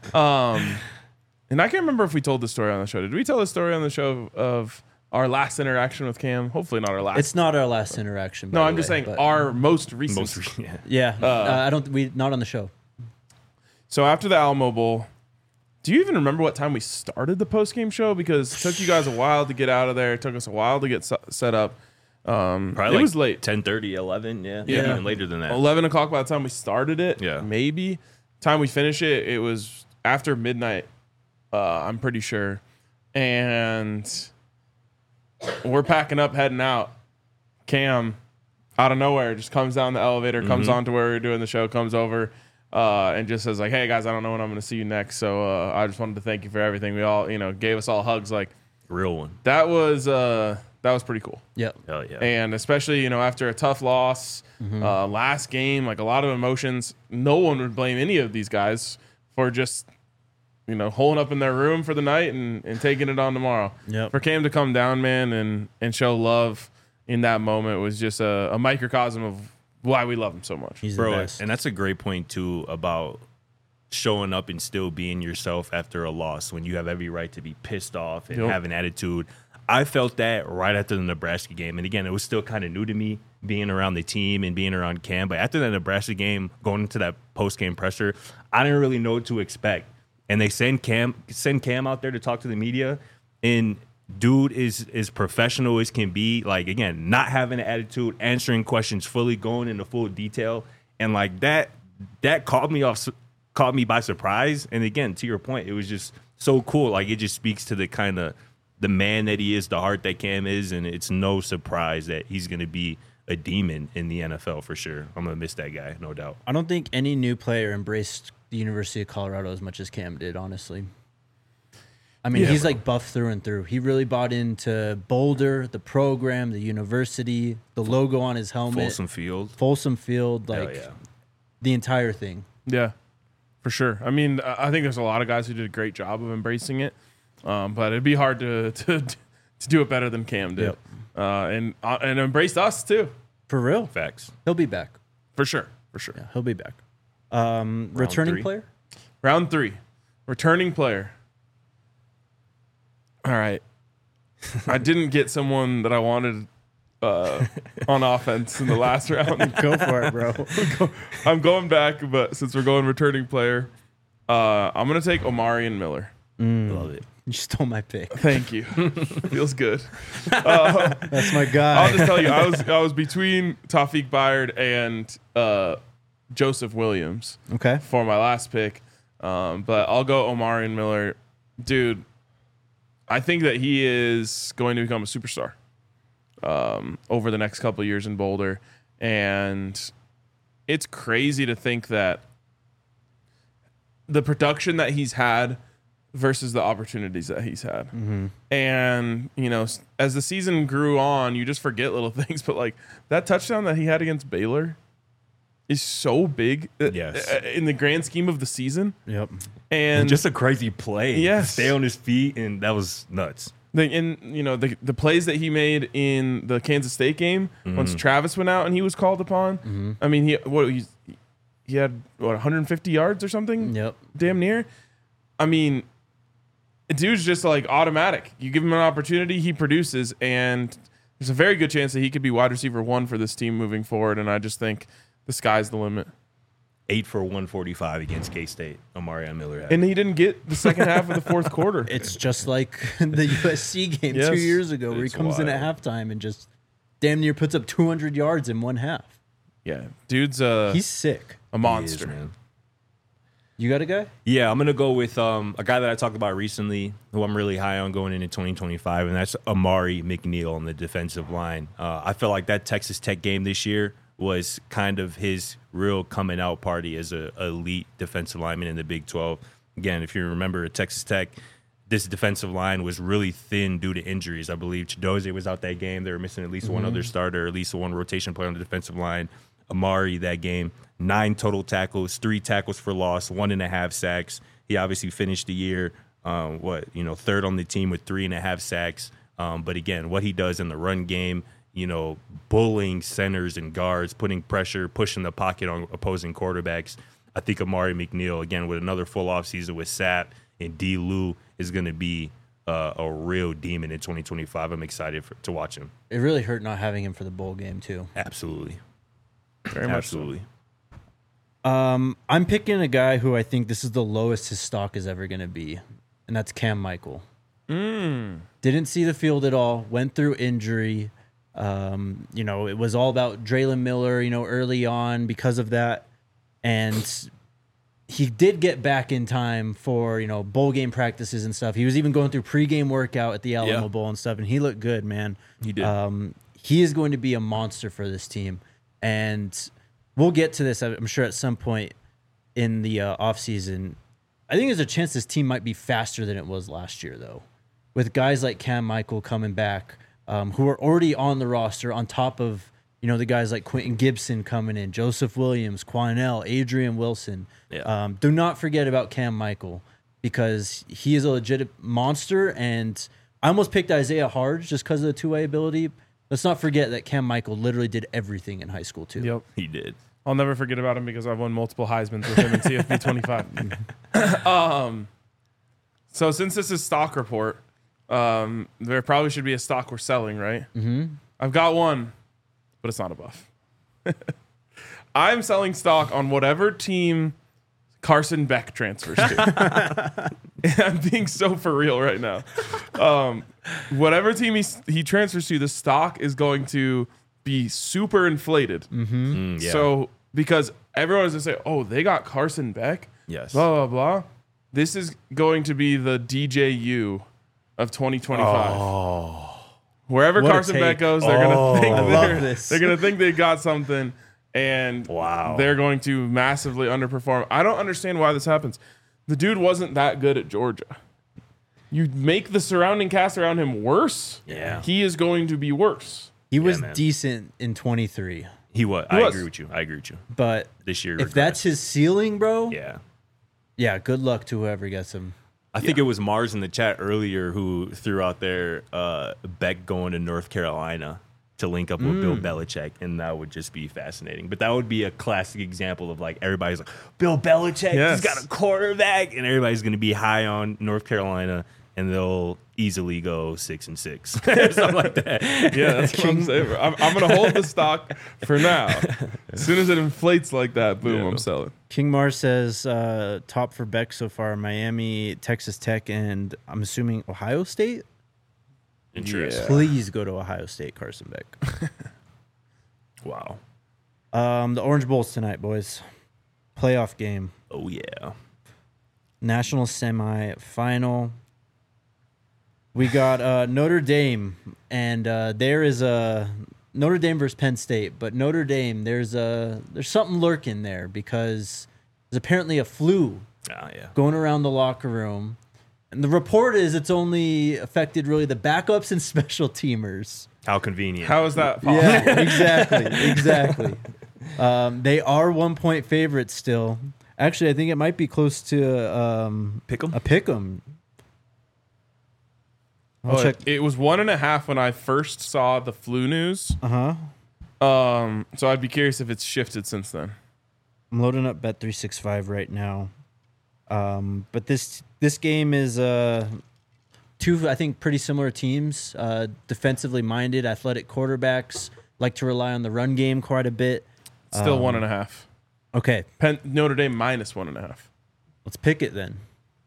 And I can't remember if we told the story on the show. Did we tell the story on the show of our last interaction with Cam? Hopefully not our last. It's not our last interaction. no, by I'm the just way, saying but- our most recent. Yeah, I don't. We not on the show. So after the Alamo Bowl, do you even remember what time we started the post-game show? Because it took you guys a while to get out of there. It took us a while to get set up. Probably It was late. 10:30, 11, yeah. Yeah. Even later than that. 11 o'clock by the time we started it. Yeah. Maybe. Time we finish it, it was after midnight, I'm pretty sure. And we're packing up, heading out. Cam, out of nowhere, just comes down the elevator, comes on to where we're doing the show, comes over, and just says like, hey guys, I don't know when I'm going to see you next. So I just wanted to thank you for everything. We all, gave us all hugs. Like Real one. that was pretty cool. Yep. Hell yeah. And especially, after a tough loss, last game, like a lot of emotions, no one would blame any of these guys for just, holding up in their room for the night and taking it on tomorrow. Yep. For Cam to come down, man, and show love in that moment was just a microcosm of why we love him so much. He's the Bro, best. and that's a great point too about showing up and still being yourself after a loss when you have every right to be pissed off and Yep. have an attitude. I felt that right after the Nebraska game. And again, it was still kind of new to me being around the team and being around Cam. But after the Nebraska game, going into that post-game pressure, I didn't really know what to expect. And they send Cam out there to talk to the media. And dude is professional as can be. Like, again, not having an attitude, answering questions fully, going into full detail. And like that caught me by surprise. And again, to your point, it was just so cool. Like, it just speaks to the kind of the man that he is, the heart that Cam is, and it's no surprise that he's going to be a demon in the NFL for sure. I'm going to miss that guy, no doubt. I don't think any new player embraced the University of Colorado as much as Cam did, honestly. I mean, Yeah, he's bro. like buff through and through. He really bought into Boulder, the program, the university, the logo on his helmet, Folsom Field. Field, Hell like yeah. the entire thing. Yeah, for sure. I mean, I think there's a lot of guys who did a great job of embracing it, but it'd be hard to do it better than Cam did, and embraced us too, For real. Facts. He'll be back. for sure. Yeah, he'll be back. Returning 3. player? Round 3, returning player. All right, I didn't get someone that I wanted on offense in the last round. Go for it, bro. I'm going back, but since we're going returning player, I'm gonna take Omarion Miller. Love it. You stole my pick. Thank you. Feels good. That's my guy. I'll just tell you, I was between Tawfiq Byard and Joseph Williams Okay. for my last pick, but I'll go Omarion Miller, dude. I think that he is going to become a superstar over the next couple of years in Boulder, and it's crazy to think that the production that he's had versus the opportunities that he's had. And, as the season grew on, you just forget little things. But, like, that touchdown that he had against Baylor is so big Yes. in the grand scheme of the season. Yep. And Just a crazy play. Yes. Stay on his feet, and that was nuts. the plays that he made in the Kansas State game, once Travis went out and he was called upon. I mean, he had 150 yards or something? Yep. Damn near. I mean, dude's just like automatic. You give him an opportunity, he produces, and there's a very good chance that he could be wide receiver 1 for this team moving forward. And I just think the sky's the limit. 8 for 145 against K-State. Omarion Miller had. And he didn't get the second half of the fourth quarter. It's just like the USC game Yes, 2 years ago where he it's comes in at halftime and just damn near puts up 200 yards in one half. Yeah, dude's He's sick. a monster. He is, man. You got a guy? Yeah, I'm going to go with a guy that I talked about recently who I'm really high on going into 2025, and that's Amari McNeil on the defensive line. I feel like that Texas Tech game this year was kind of his real coming out party as an elite defensive lineman in the Big 12. Again, if you remember at Texas Tech, this defensive line was really thin due to injuries. I believe Chidozie was out that game. They were missing at least one other starter, at least one rotation player on the defensive line. Amari that game, 9 total tackles, 3 tackles for loss, 1.5 sacks. He obviously finished the year, third on the team with 3.5 sacks. But again, what he does in the run game, bullying centers and guards, putting pressure, pushing the pocket on opposing quarterbacks. I think Amari McNeil, again, with another full offseason with Sapp and D. Lou, is going to be a real demon in 2025. I'm excited to watch him. It really hurt not having him for the bowl game, too. Absolutely. Very much so. Absolutely. I'm picking a guy who I think this is the lowest his stock is ever going to be, and that's Cam Michael. Didn't see the field at all, went through injury. It was all about Draylon Miller, early on because of that. And he did get back in time for, bowl game practices and stuff. He was even going through pregame workout at the Alamo Bowl and stuff, and he looked good, man. He did. He is going to be a monster for this team. And we'll get to this, I'm sure, at some point in the offseason. I think there's a chance this team might be faster than it was last year, though, with guys like Cam Michael coming back, who are already on the roster on top of, the guys like Quentin Gibson coming in, Joseph Williams, Quanell, Adrian Wilson. Yeah. Do not forget about Cam Michael because he is a legit monster. And I almost picked Isaiah Harge just because of the two-way ability. Let's not forget that Cam Michael literally did everything in high school, too. Yep. He did. I'll never forget about him because I've won multiple Heismans with him in CFP 25. So since this is stock report, there probably should be a stock we're selling, right? Mm-hmm. I've got one, but it's not a buff. I'm selling stock on whatever team Carson Beck transfers to. I'm being so for real right now. Whatever team he transfers to, the stock is going to be super inflated. Yeah. So because everyone is going to say, oh, they got Carson Beck? Yes. Blah, blah, blah. This is going to be the DJU of 2025. Oh. Wherever What a Carson take. Beck goes, they're going to think I love this. they're going to think they got something, and Wow. they're going to massively underperform. I don't understand why this happens. The dude wasn't that good at Georgia. You make the surrounding cast around him worse, Yeah. he is going to be worse. He was man. decent in 23, He was. He I was. agree with you. but This year. if that's his ceiling, bro, Yeah. good luck to whoever gets him. I think it was Mars in the chat earlier who threw out there Beck going to North Carolina to link up with Bill Belichick, and that would just be fascinating. But that would be a classic example of like everybody's like, Bill Belichick, Yes. he's got a quarterback, and everybody's going to be high on North Carolina, and they'll easily go 6-6, something like that. Yeah, that's what I'm saying. I'm going to hold the stock for now. As soon as it inflates like that, boom, I'm selling. King Mars says top for Beck so far: Miami, Texas Tech, and I'm assuming Ohio State. Interesting. Please go to Ohio State, Carson Beck. Wow. The Orange Bowl's tonight, boys. Playoff game, Oh yeah. national semi-final. We got Notre Dame, and there is a Notre Dame versus Penn State. But Notre Dame, there's something lurking there because there's apparently a flu Ah yeah. going around the locker room. And the report is it's only affected really the backups and special teamers. How convenient. How is that possible? Yeah, exactly. They are 1-point favorites still. Actually, I think it might be close to Pick 'em? a pick 'em. I'll Oh, check. it was 1.5 when I first saw the flu news. Uh-huh. So I'd be curious if it's shifted since then. I'm loading up Bet365 right now. But this game is two, I think, pretty similar teams. Defensively minded, athletic quarterbacks like to rely on the run game quite a bit. Still 1.5. Okay, Notre Dame minus 1.5. let's pick it then.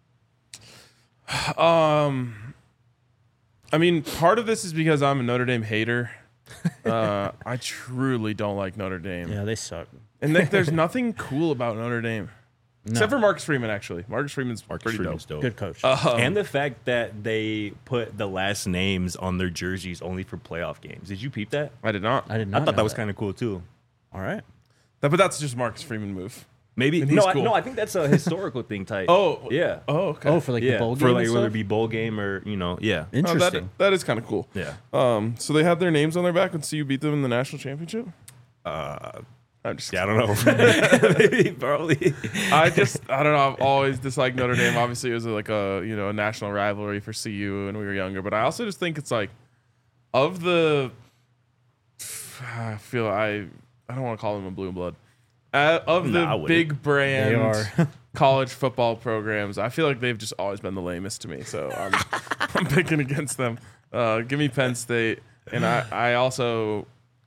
I mean, part of this is because I'm a Notre Dame hater. I truly don't like Notre Dame. Yeah, they suck. And there's nothing cool about Notre Dame. No. Except for Marcus Freeman, actually. Marcus Freeman's pretty dope. Good coach. And the fact that they put the last names on their jerseys only for playoff games. Did you peep that? I did not. I did not. I thought know that was kind of cool too. All right. But that's just Marcus Freeman move. Maybe And he's cool. I think that's a historical thing type. Oh. yeah. Oh, okay. Oh, for like the bowl game. for like and whether it stuff? be bowl game or yeah. Oh, Interesting. that is kind of cool. Yeah. So they had their names on their back when CU beat them in the national championship? I'm just Yeah, I don't know. Maybe, probably. I don't know. I've always disliked Notre Dame. Obviously, it was like a national rivalry for CU when we were younger. But I also just think it's like of the. I don't want to call them a blue and blood. Of Nah, I the wouldn't. big brand They are. college football programs, I feel like they've just always been the lamest to me. So I'm picking against them. Give me Penn State, and I also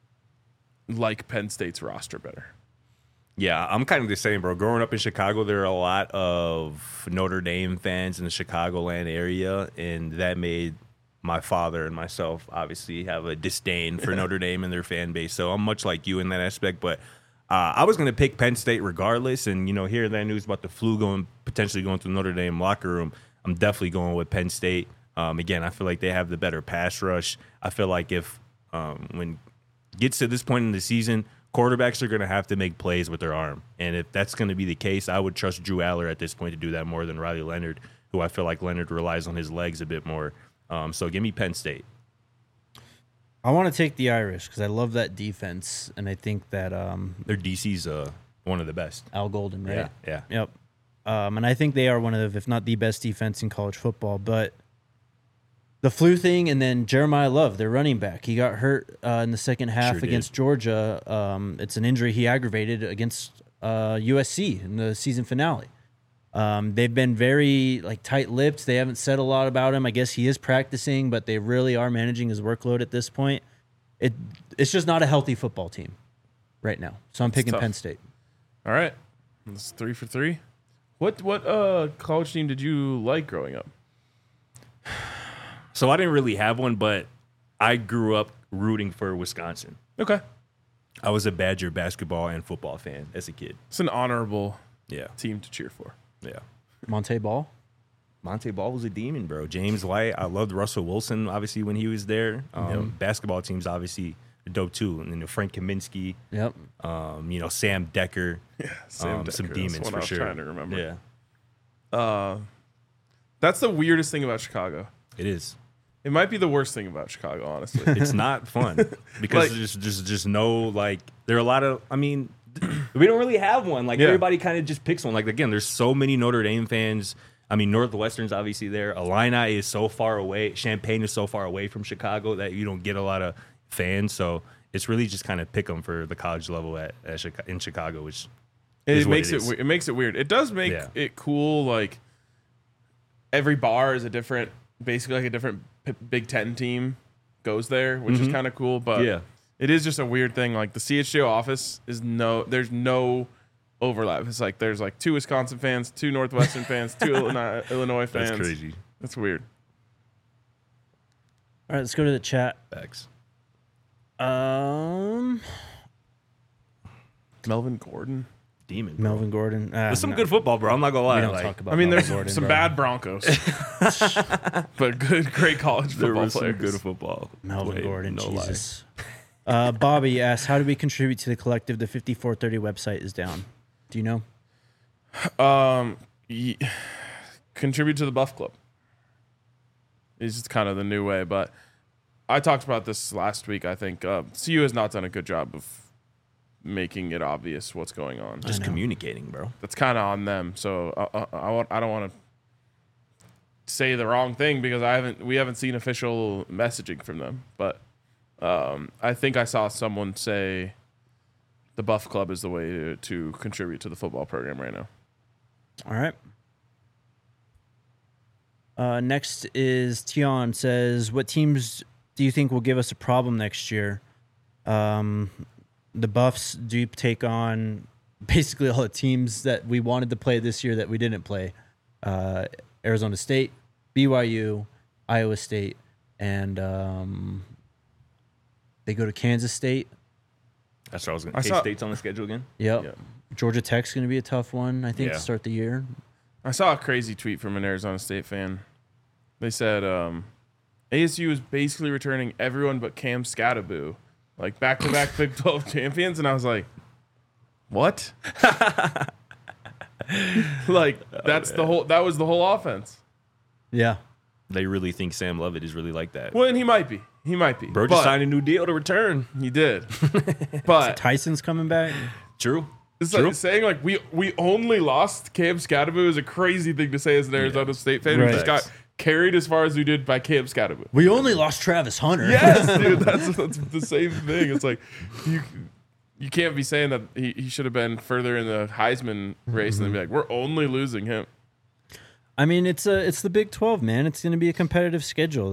like Penn State's roster better. Yeah, I'm kind of the same, bro. Growing up in Chicago, there are a lot of Notre Dame fans in the Chicagoland area, and that made my father and myself obviously have a disdain for Notre Dame and their fan base. So I'm much like you in that aspect, but I was going to pick Penn State regardless. And, hearing that news about the flu potentially going to the Notre Dame locker room, I'm definitely going with Penn State. Again, I feel like they have the better pass rush. I feel like if when it gets to this point in the season, quarterbacks are going to have to make plays with their arm. And if that's going to be the case, I would trust Drew Aller at this point to do that more than Riley Leonard, who I feel like Leonard relies on his legs a bit more. So give me Penn State. I want to take the Irish because I love that defense, and I think that Their DC's one of the best. Al Golden, right? Yeah. Yep. And I think they are one of, if not the best defense in college football. But the flu thing, and then Jeremiah Love, their running back, he got hurt in the second half Sure did. against Georgia. It's an injury he aggravated against USC in the season finale. They've been very tight-lipped. They haven't said a lot about him. I guess he is practicing, but they really are managing his workload at this point. It's just not a healthy football team right now. So I'm picking tough. Penn State. All right, that's 3 for 3. What college team did you like growing up? So I didn't really have one, but I grew up rooting for Wisconsin. Okay, I was a Badger basketball and football fan as a kid. it's an honorable Yeah. team to cheer for. Yeah. Monte Ball. Monte Ball was a demon, bro. James White. I loved Russell Wilson, obviously, when he was there. Basketball teams, obviously, are dope, too. And then Frank Kaminsky, Yep. Sam Decker. Sam Some Decker, that's demons, one for I was sure. trying to remember. Yeah, That's the weirdest thing about Chicago. it is. It might be the worst thing about Chicago, honestly. It's not fun because there's just no, there are a lot of, we don't really have one. Yeah. Everybody kind of just picks one. Again, there's so many Notre Dame fans. Northwestern's obviously there. Illini is so far away. Champaign is so far away from Chicago that you don't get a lot of fans. So it's really just kind of pick them for the college level in Chicago, which is It what makes is. it makes it weird. It does make Yeah. it cool. Every bar is basically a different Big Ten team goes there, which is kind of cool. But Yeah. it is just a weird thing. The CHGO office there's no overlap. It's there's 2 Wisconsin fans, 2 Northwestern fans, 2 Illinois fans. That's crazy. That's weird. All right, let's go to the chat. Facts. Melvin Gordon. Demon, bro. Melvin Gordon. There's some good football, bro. I'm not gonna lie. We don't talk about. I mean, Melvin there's Gordon, some bro. bad Broncos, but great college there football was some players. good football. Melvin played, Gordon. no lie. Jesus. Bobby asks, "How do we contribute to the collective? The 5430 website is down. Do you know?" Contribute to the Buff Club is just kind of the new way. But I talked about this last week. I think CU has not done a good job of making it obvious what's going on. Just communicating, bro. That's kind of on them. So I don't want to say the wrong thing because we haven't seen official messaging from them. But I think I saw someone say the Buff Club is the way to contribute to the football program right now. All right. Next is Tion says, "What teams do you think will give us a problem next year?" the Buffs do take on basically all the teams that we wanted to play this year that we didn't play. Arizona State, BYU, Iowa State, and they go to Kansas State. That's what I was going to say. K-State's on the schedule again? Yep. Yeah. Georgia Tech's going to be a tough one, I think, Yeah. to start the year. I saw a crazy tweet from an Arizona State fan. They said ASU is basically returning everyone but Cam Scattaboo, like back-to-back Big 12 champions, and I was like, what? Like that was the whole offense. Yeah. They really think Sam Lovett is really like that. Well, and he might be. Bro just signed a new deal to return. He did. But Tyson's coming back. True. it's True. like saying like we only lost Cam Scattaboo is a crazy thing to say as an Arizona State fan who Right. just got carried as far as we did by Cam Scattaboo. We only lost Travis Hunter. Yes, dude, that's the same thing. It's like you can't be saying that he should have been further in the Heisman race and then be like, we're only losing him. I mean, it's the Big 12, man. It's going to be a competitive schedule.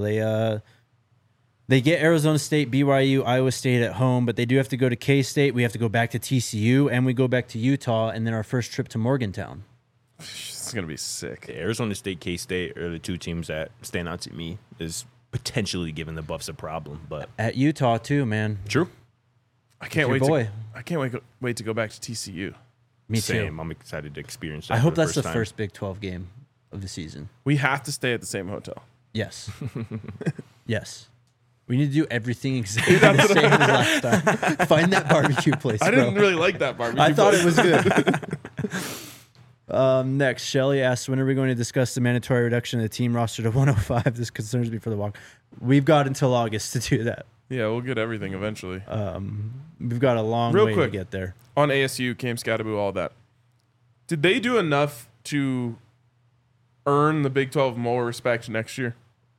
They get Arizona State, BYU, Iowa State at home, but they do have to go to K-State. We have to go back to TCU, and we go back to Utah, and then our first trip to Morgantown. It's gonna be sick. Arizona State, K-State are the two teams that stand out to me as potentially giving the Buffs a problem. But At Utah, too, man. true. I can't Your wait. boy. I can't wait to go back to TCU. Me Same. too. I'm excited to experience that. I for hope that's the time. first Big 12 game of the season. We have to stay at the same hotel. Yes. Yes. We need to do everything exactly the same as last time. Find that barbecue place, I bro. didn't really like that barbecue. I thought place. it was good. Next, Shelly asks, when are we going to discuss the mandatory reduction of the team roster to 105? This concerns me for the walk. We've got until August to do that. Yeah, we'll get everything eventually. We've got a long Real way quick. to get there. On ASU, Cam Scattaboo, all that. Did they do enough to earn the Big 12 more respect next year?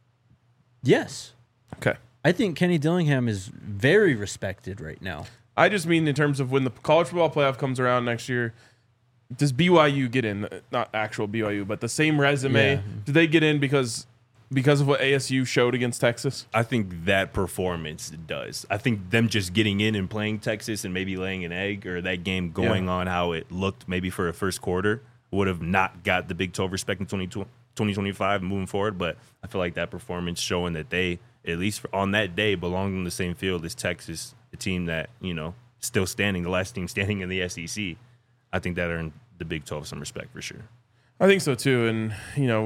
Yes. Okay. I think Kenny Dillingham is very respected right now. I just mean in terms of when the college football playoff comes around next year, does BYU get in? Not actual BYU, but the same resume. Yeah. Do they get in because of what ASU showed against Texas? I think that performance does. I think them just getting in and playing Texas and maybe laying an egg, or that game going on how it looked maybe for a first quarter, would have not got the Big 12 respect in 2025 moving forward. But I feel like that performance showing that they, at least on that day, belonged on the same field as Texas, the team that, still standing, the last team standing in the SEC. I think that earned the Big 12 some respect for sure. I think so too. And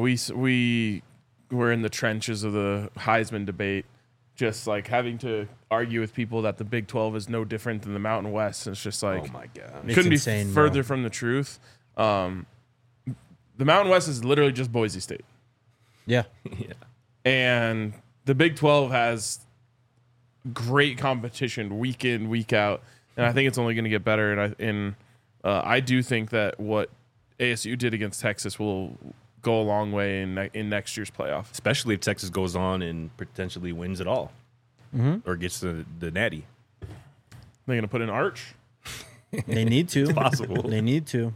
we were in the trenches of the Heisman debate, just like having to argue with people that the Big 12 is no different than the Mountain West. It's just like, Oh my God. It's couldn't insane, be bro. further from the truth. The Mountain West is literally just Boise State, Yeah. Yeah. and the Big 12 has great competition week in, week out, and I think it's only going to get better. And I do think that what ASU did against Texas will go a long way in next year's playoff. Especially if Texas goes on and potentially wins it all, or gets the natty. They're going to put in Arch. They need to. possible. They need to.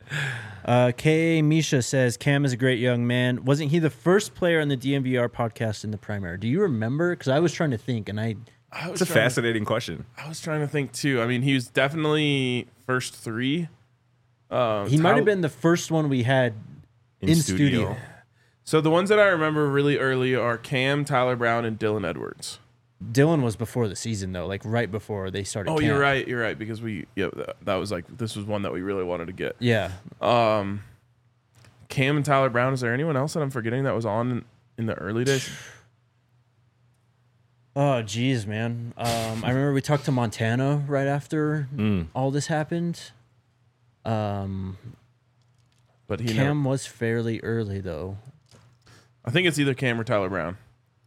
K.A. Misha says, Cam is a great young man. Wasn't he the first player on the DMVR podcast in the primary? Do you remember? Because I was trying to think, and It's a fascinating question. I was trying to think too. I mean, he was definitely first three. he might have been the first one we had in studio. So the ones that I remember really early are Cam, Tyler Brown, and Dylan Edwards. Dylan was before the season, though, like right before they started. Oh, camp. you're right. Because that was like, this was one that we really wanted to get. Yeah. Cam and Tyler Brown. Is there anyone else that I'm forgetting that was on in the early days? Oh, geez, man. I remember we talked to Montana right after all this happened. But he Cam was fairly early, though. I think it's either Cam or Tyler Brown.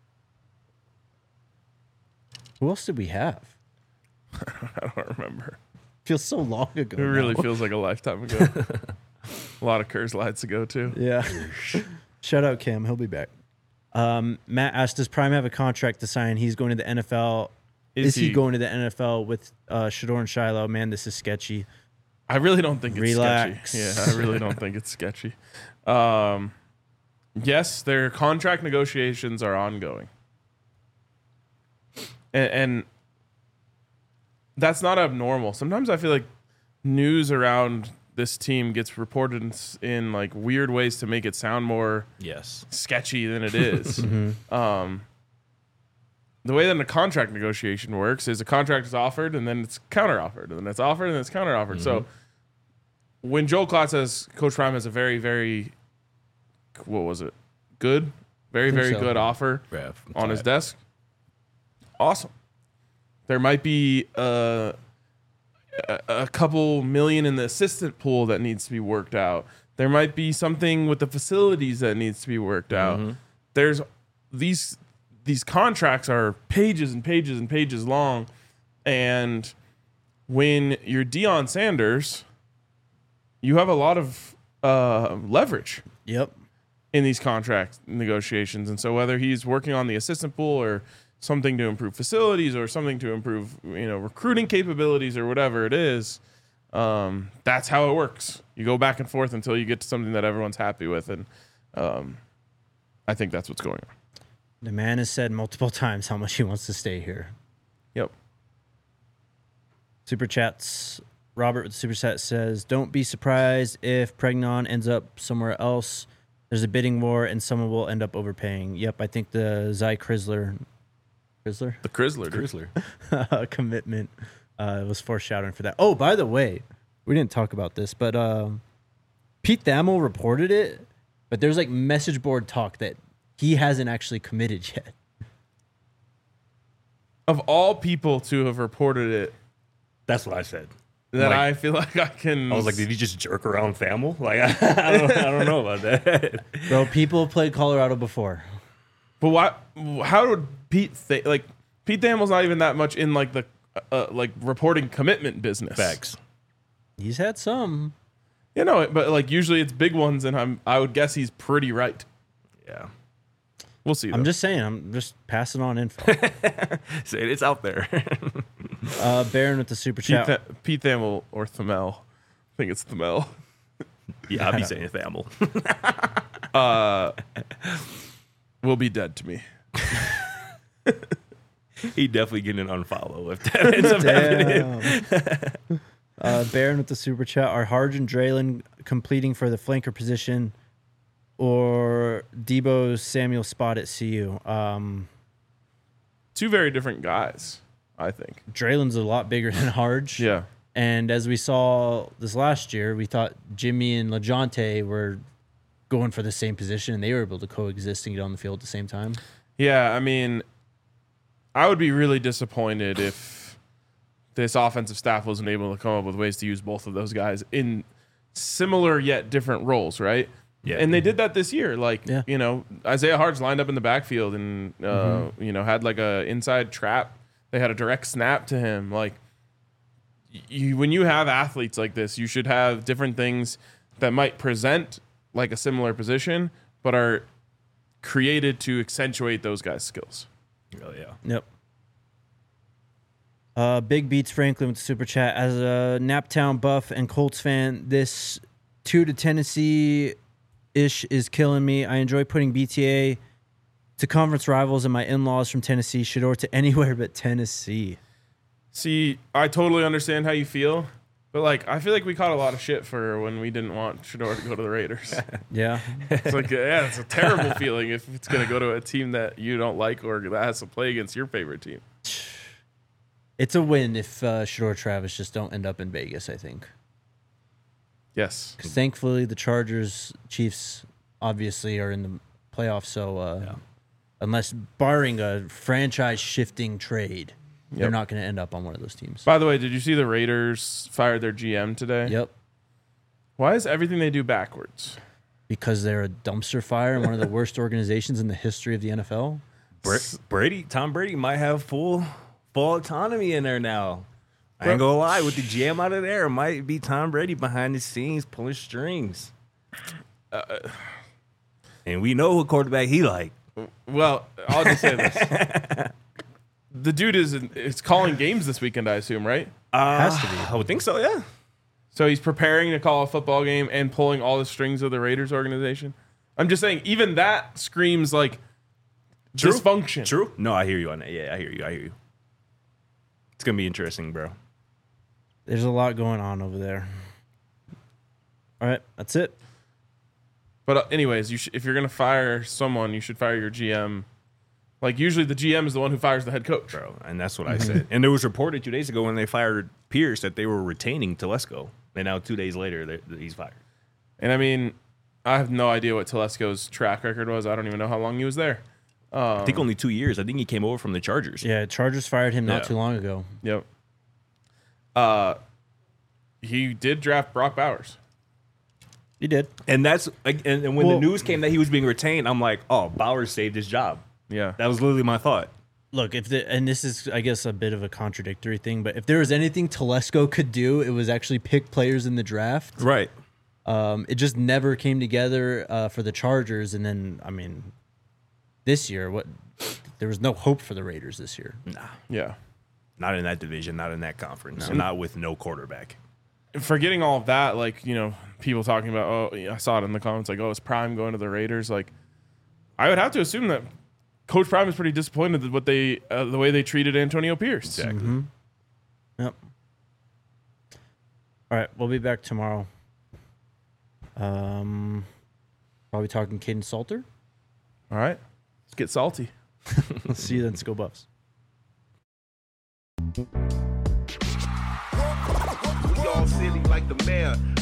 Who else did we have? I don't remember. Feels so long ago. It really now. feels like a lifetime ago. A lot of Kerr slides ago too. Yeah. Shout out Cam. He'll be back. Matt asked, does Prime have a contract to sign? He's going to the NFL. Is he going to the NFL with Shador and Shiloh? Man, this is sketchy. I really don't think it's Relax. sketchy. Yeah, I really don't think it's sketchy. Yes, their contract negotiations are ongoing. And that's not abnormal. Sometimes I feel like news around this team gets reported in like weird ways to make it sound more sketchy than it is. The way that a contract negotiation works is a contract is offered and then it's counter-offered, and then it's offered and then it's counter-offered. So when Joel Klatt says Coach Prime has a very, very, good, very, very good offer on his desk, awesome. There might be a couple million in the assistant pool that needs to be worked out. There might be something with the facilities that needs to be worked out. There's these contracts are pages and pages and pages long, and when you're Deion Sanders, you have a lot of leverage. Yep. In these contract negotiations, and so whether he's working on the assistant pool or something to improve facilities or something to improve, recruiting capabilities or whatever it is, that's how it works. You go back and forth until you get to something that everyone's happy with, and I think that's what's going on. The man has said multiple times how much he wants to stay here. Yep. Super chats. Robert with the super chat says, "Don't be surprised if Pregnon ends up somewhere else. There's a bidding war and someone will end up overpaying." Yep, I think the Zy Chrysler commitment was foreshadowing for that. Oh, by the way, we didn't talk about this, but Pete Thamel reported it, but there's like message board talk that he hasn't actually committed yet. Of all people to have reported it, that's what I said. That I feel like I was like, did he just jerk around Thamel? Like, I don't know about that. Bro, people have played Colorado before. But why? How would Pete Pete Thamel's not even that much in like the reporting commitment business. Facts. He's had some. But like usually it's big ones, and I would guess he's pretty right. Yeah. We'll see. I'm just saying. I'm just passing on info. It's out there. Baron with the super chat. Pete Thamel or Thamel. I think it's Thamel. Yeah, I'll be saying Thamel. Will be dead to me. He definitely getting an unfollow if that ends up happening. Baron with the super chat. Are Harge and Draylen completing for the flanker position, or Debo Samuel spot at CU? Two very different guys, I think. Draylen's a lot bigger than Harge. Yeah. And as we saw this last year, we thought Jimmy and LaJonte were going for the same position, and they were able to coexist and get on the field at the same time. Yeah, I mean, I would be really disappointed if this offensive staff wasn't able to come up with ways to use both of those guys in similar yet different roles, right? Yeah. And they did that this year. Isaiah Harge lined up in the backfield and, had like a inside trap. They had a direct snap to him. Like, when you have athletes like this, you should have different things that might present like a similar position, but are created to accentuate those guys' skills. Oh, yeah. Yep. Big Beats Franklin with the super chat. As a Naptown Buff and Colts fan, this 2 to Tennessee-ish is killing me. I enjoy putting BTA to conference rivals, and my in-laws from Tennessee, Shedeur to anywhere but Tennessee. See, I totally understand how you feel, but I feel like we caught a lot of shit for when we didn't want Shedeur to go to the Raiders. Yeah. It's like, it's a terrible feeling if it's going to go to a team that you don't like or that has to play against your favorite team. It's a win if Shedeur Travis just don't end up in Vegas, I think. Yes. Because thankfully the Chargers, Chiefs obviously are in the playoffs, so unless barring a franchise-shifting trade, they're not going to end up on one of those teams. By the way, did you see the Raiders fired their GM today? Yep. Why is everything they do backwards? Because they're a dumpster fire and one of the worst organizations in the history of the NFL. Tom Brady might have full autonomy in there now. I ain't gonna lie, with the GM out of there, it might be Tom Brady behind the scenes pulling strings. And we know what quarterback he like. Well, I'll just say this. The dude is calling games this weekend, I assume, right? Has to be. I would think so, yeah. So he's preparing to call a football game and pulling all the strings of the Raiders organization. I'm just saying, even that screams like dysfunction. True. No, I hear you on that. Yeah, I hear you. It's going to be interesting, bro. There's a lot going on over there. All right, that's it. But anyways, if you're gonna fire someone, you should fire your GM. Like usually, the GM is the one who fires the head coach. Bro, and that's what I said. And there was reported 2 days ago when they fired Pierce that they were retaining Telesco, and now 2 days later he's fired. And I mean, I have no idea what Telesco's track record was. I don't even know how long he was there. I think only 2 years. I think he came over from the Chargers. Yeah, Chargers fired him not too long ago. Yep. He did draft Brock Bowers. He did. And that's and when the news came that he was being retained, I'm like, oh, Bowers saved his job. Yeah. That was literally my thought. Look, and this is, I guess, a bit of a contradictory thing, but if there was anything Telesco could do, it was actually pick players in the draft. Right. It just never came together for the Chargers, and then, I mean, this year, there was no hope for the Raiders this year. Nah. Yeah. Not in that division, not in that conference, not with no quarterback. Forgetting all of that, like, you know, people talking about, oh, I saw it in the comments, like, oh, is Prime going to the Raiders? Like, I would have to assume that Coach Prime is pretty disappointed with what the way they treated Antonio Pierce. Exactly. Mm-hmm. Yep. All right, we'll be back tomorrow. Probably talking Caden Salter. All right. Let's get salty. See you then. Let's go Buffs. We all silly like the mayor.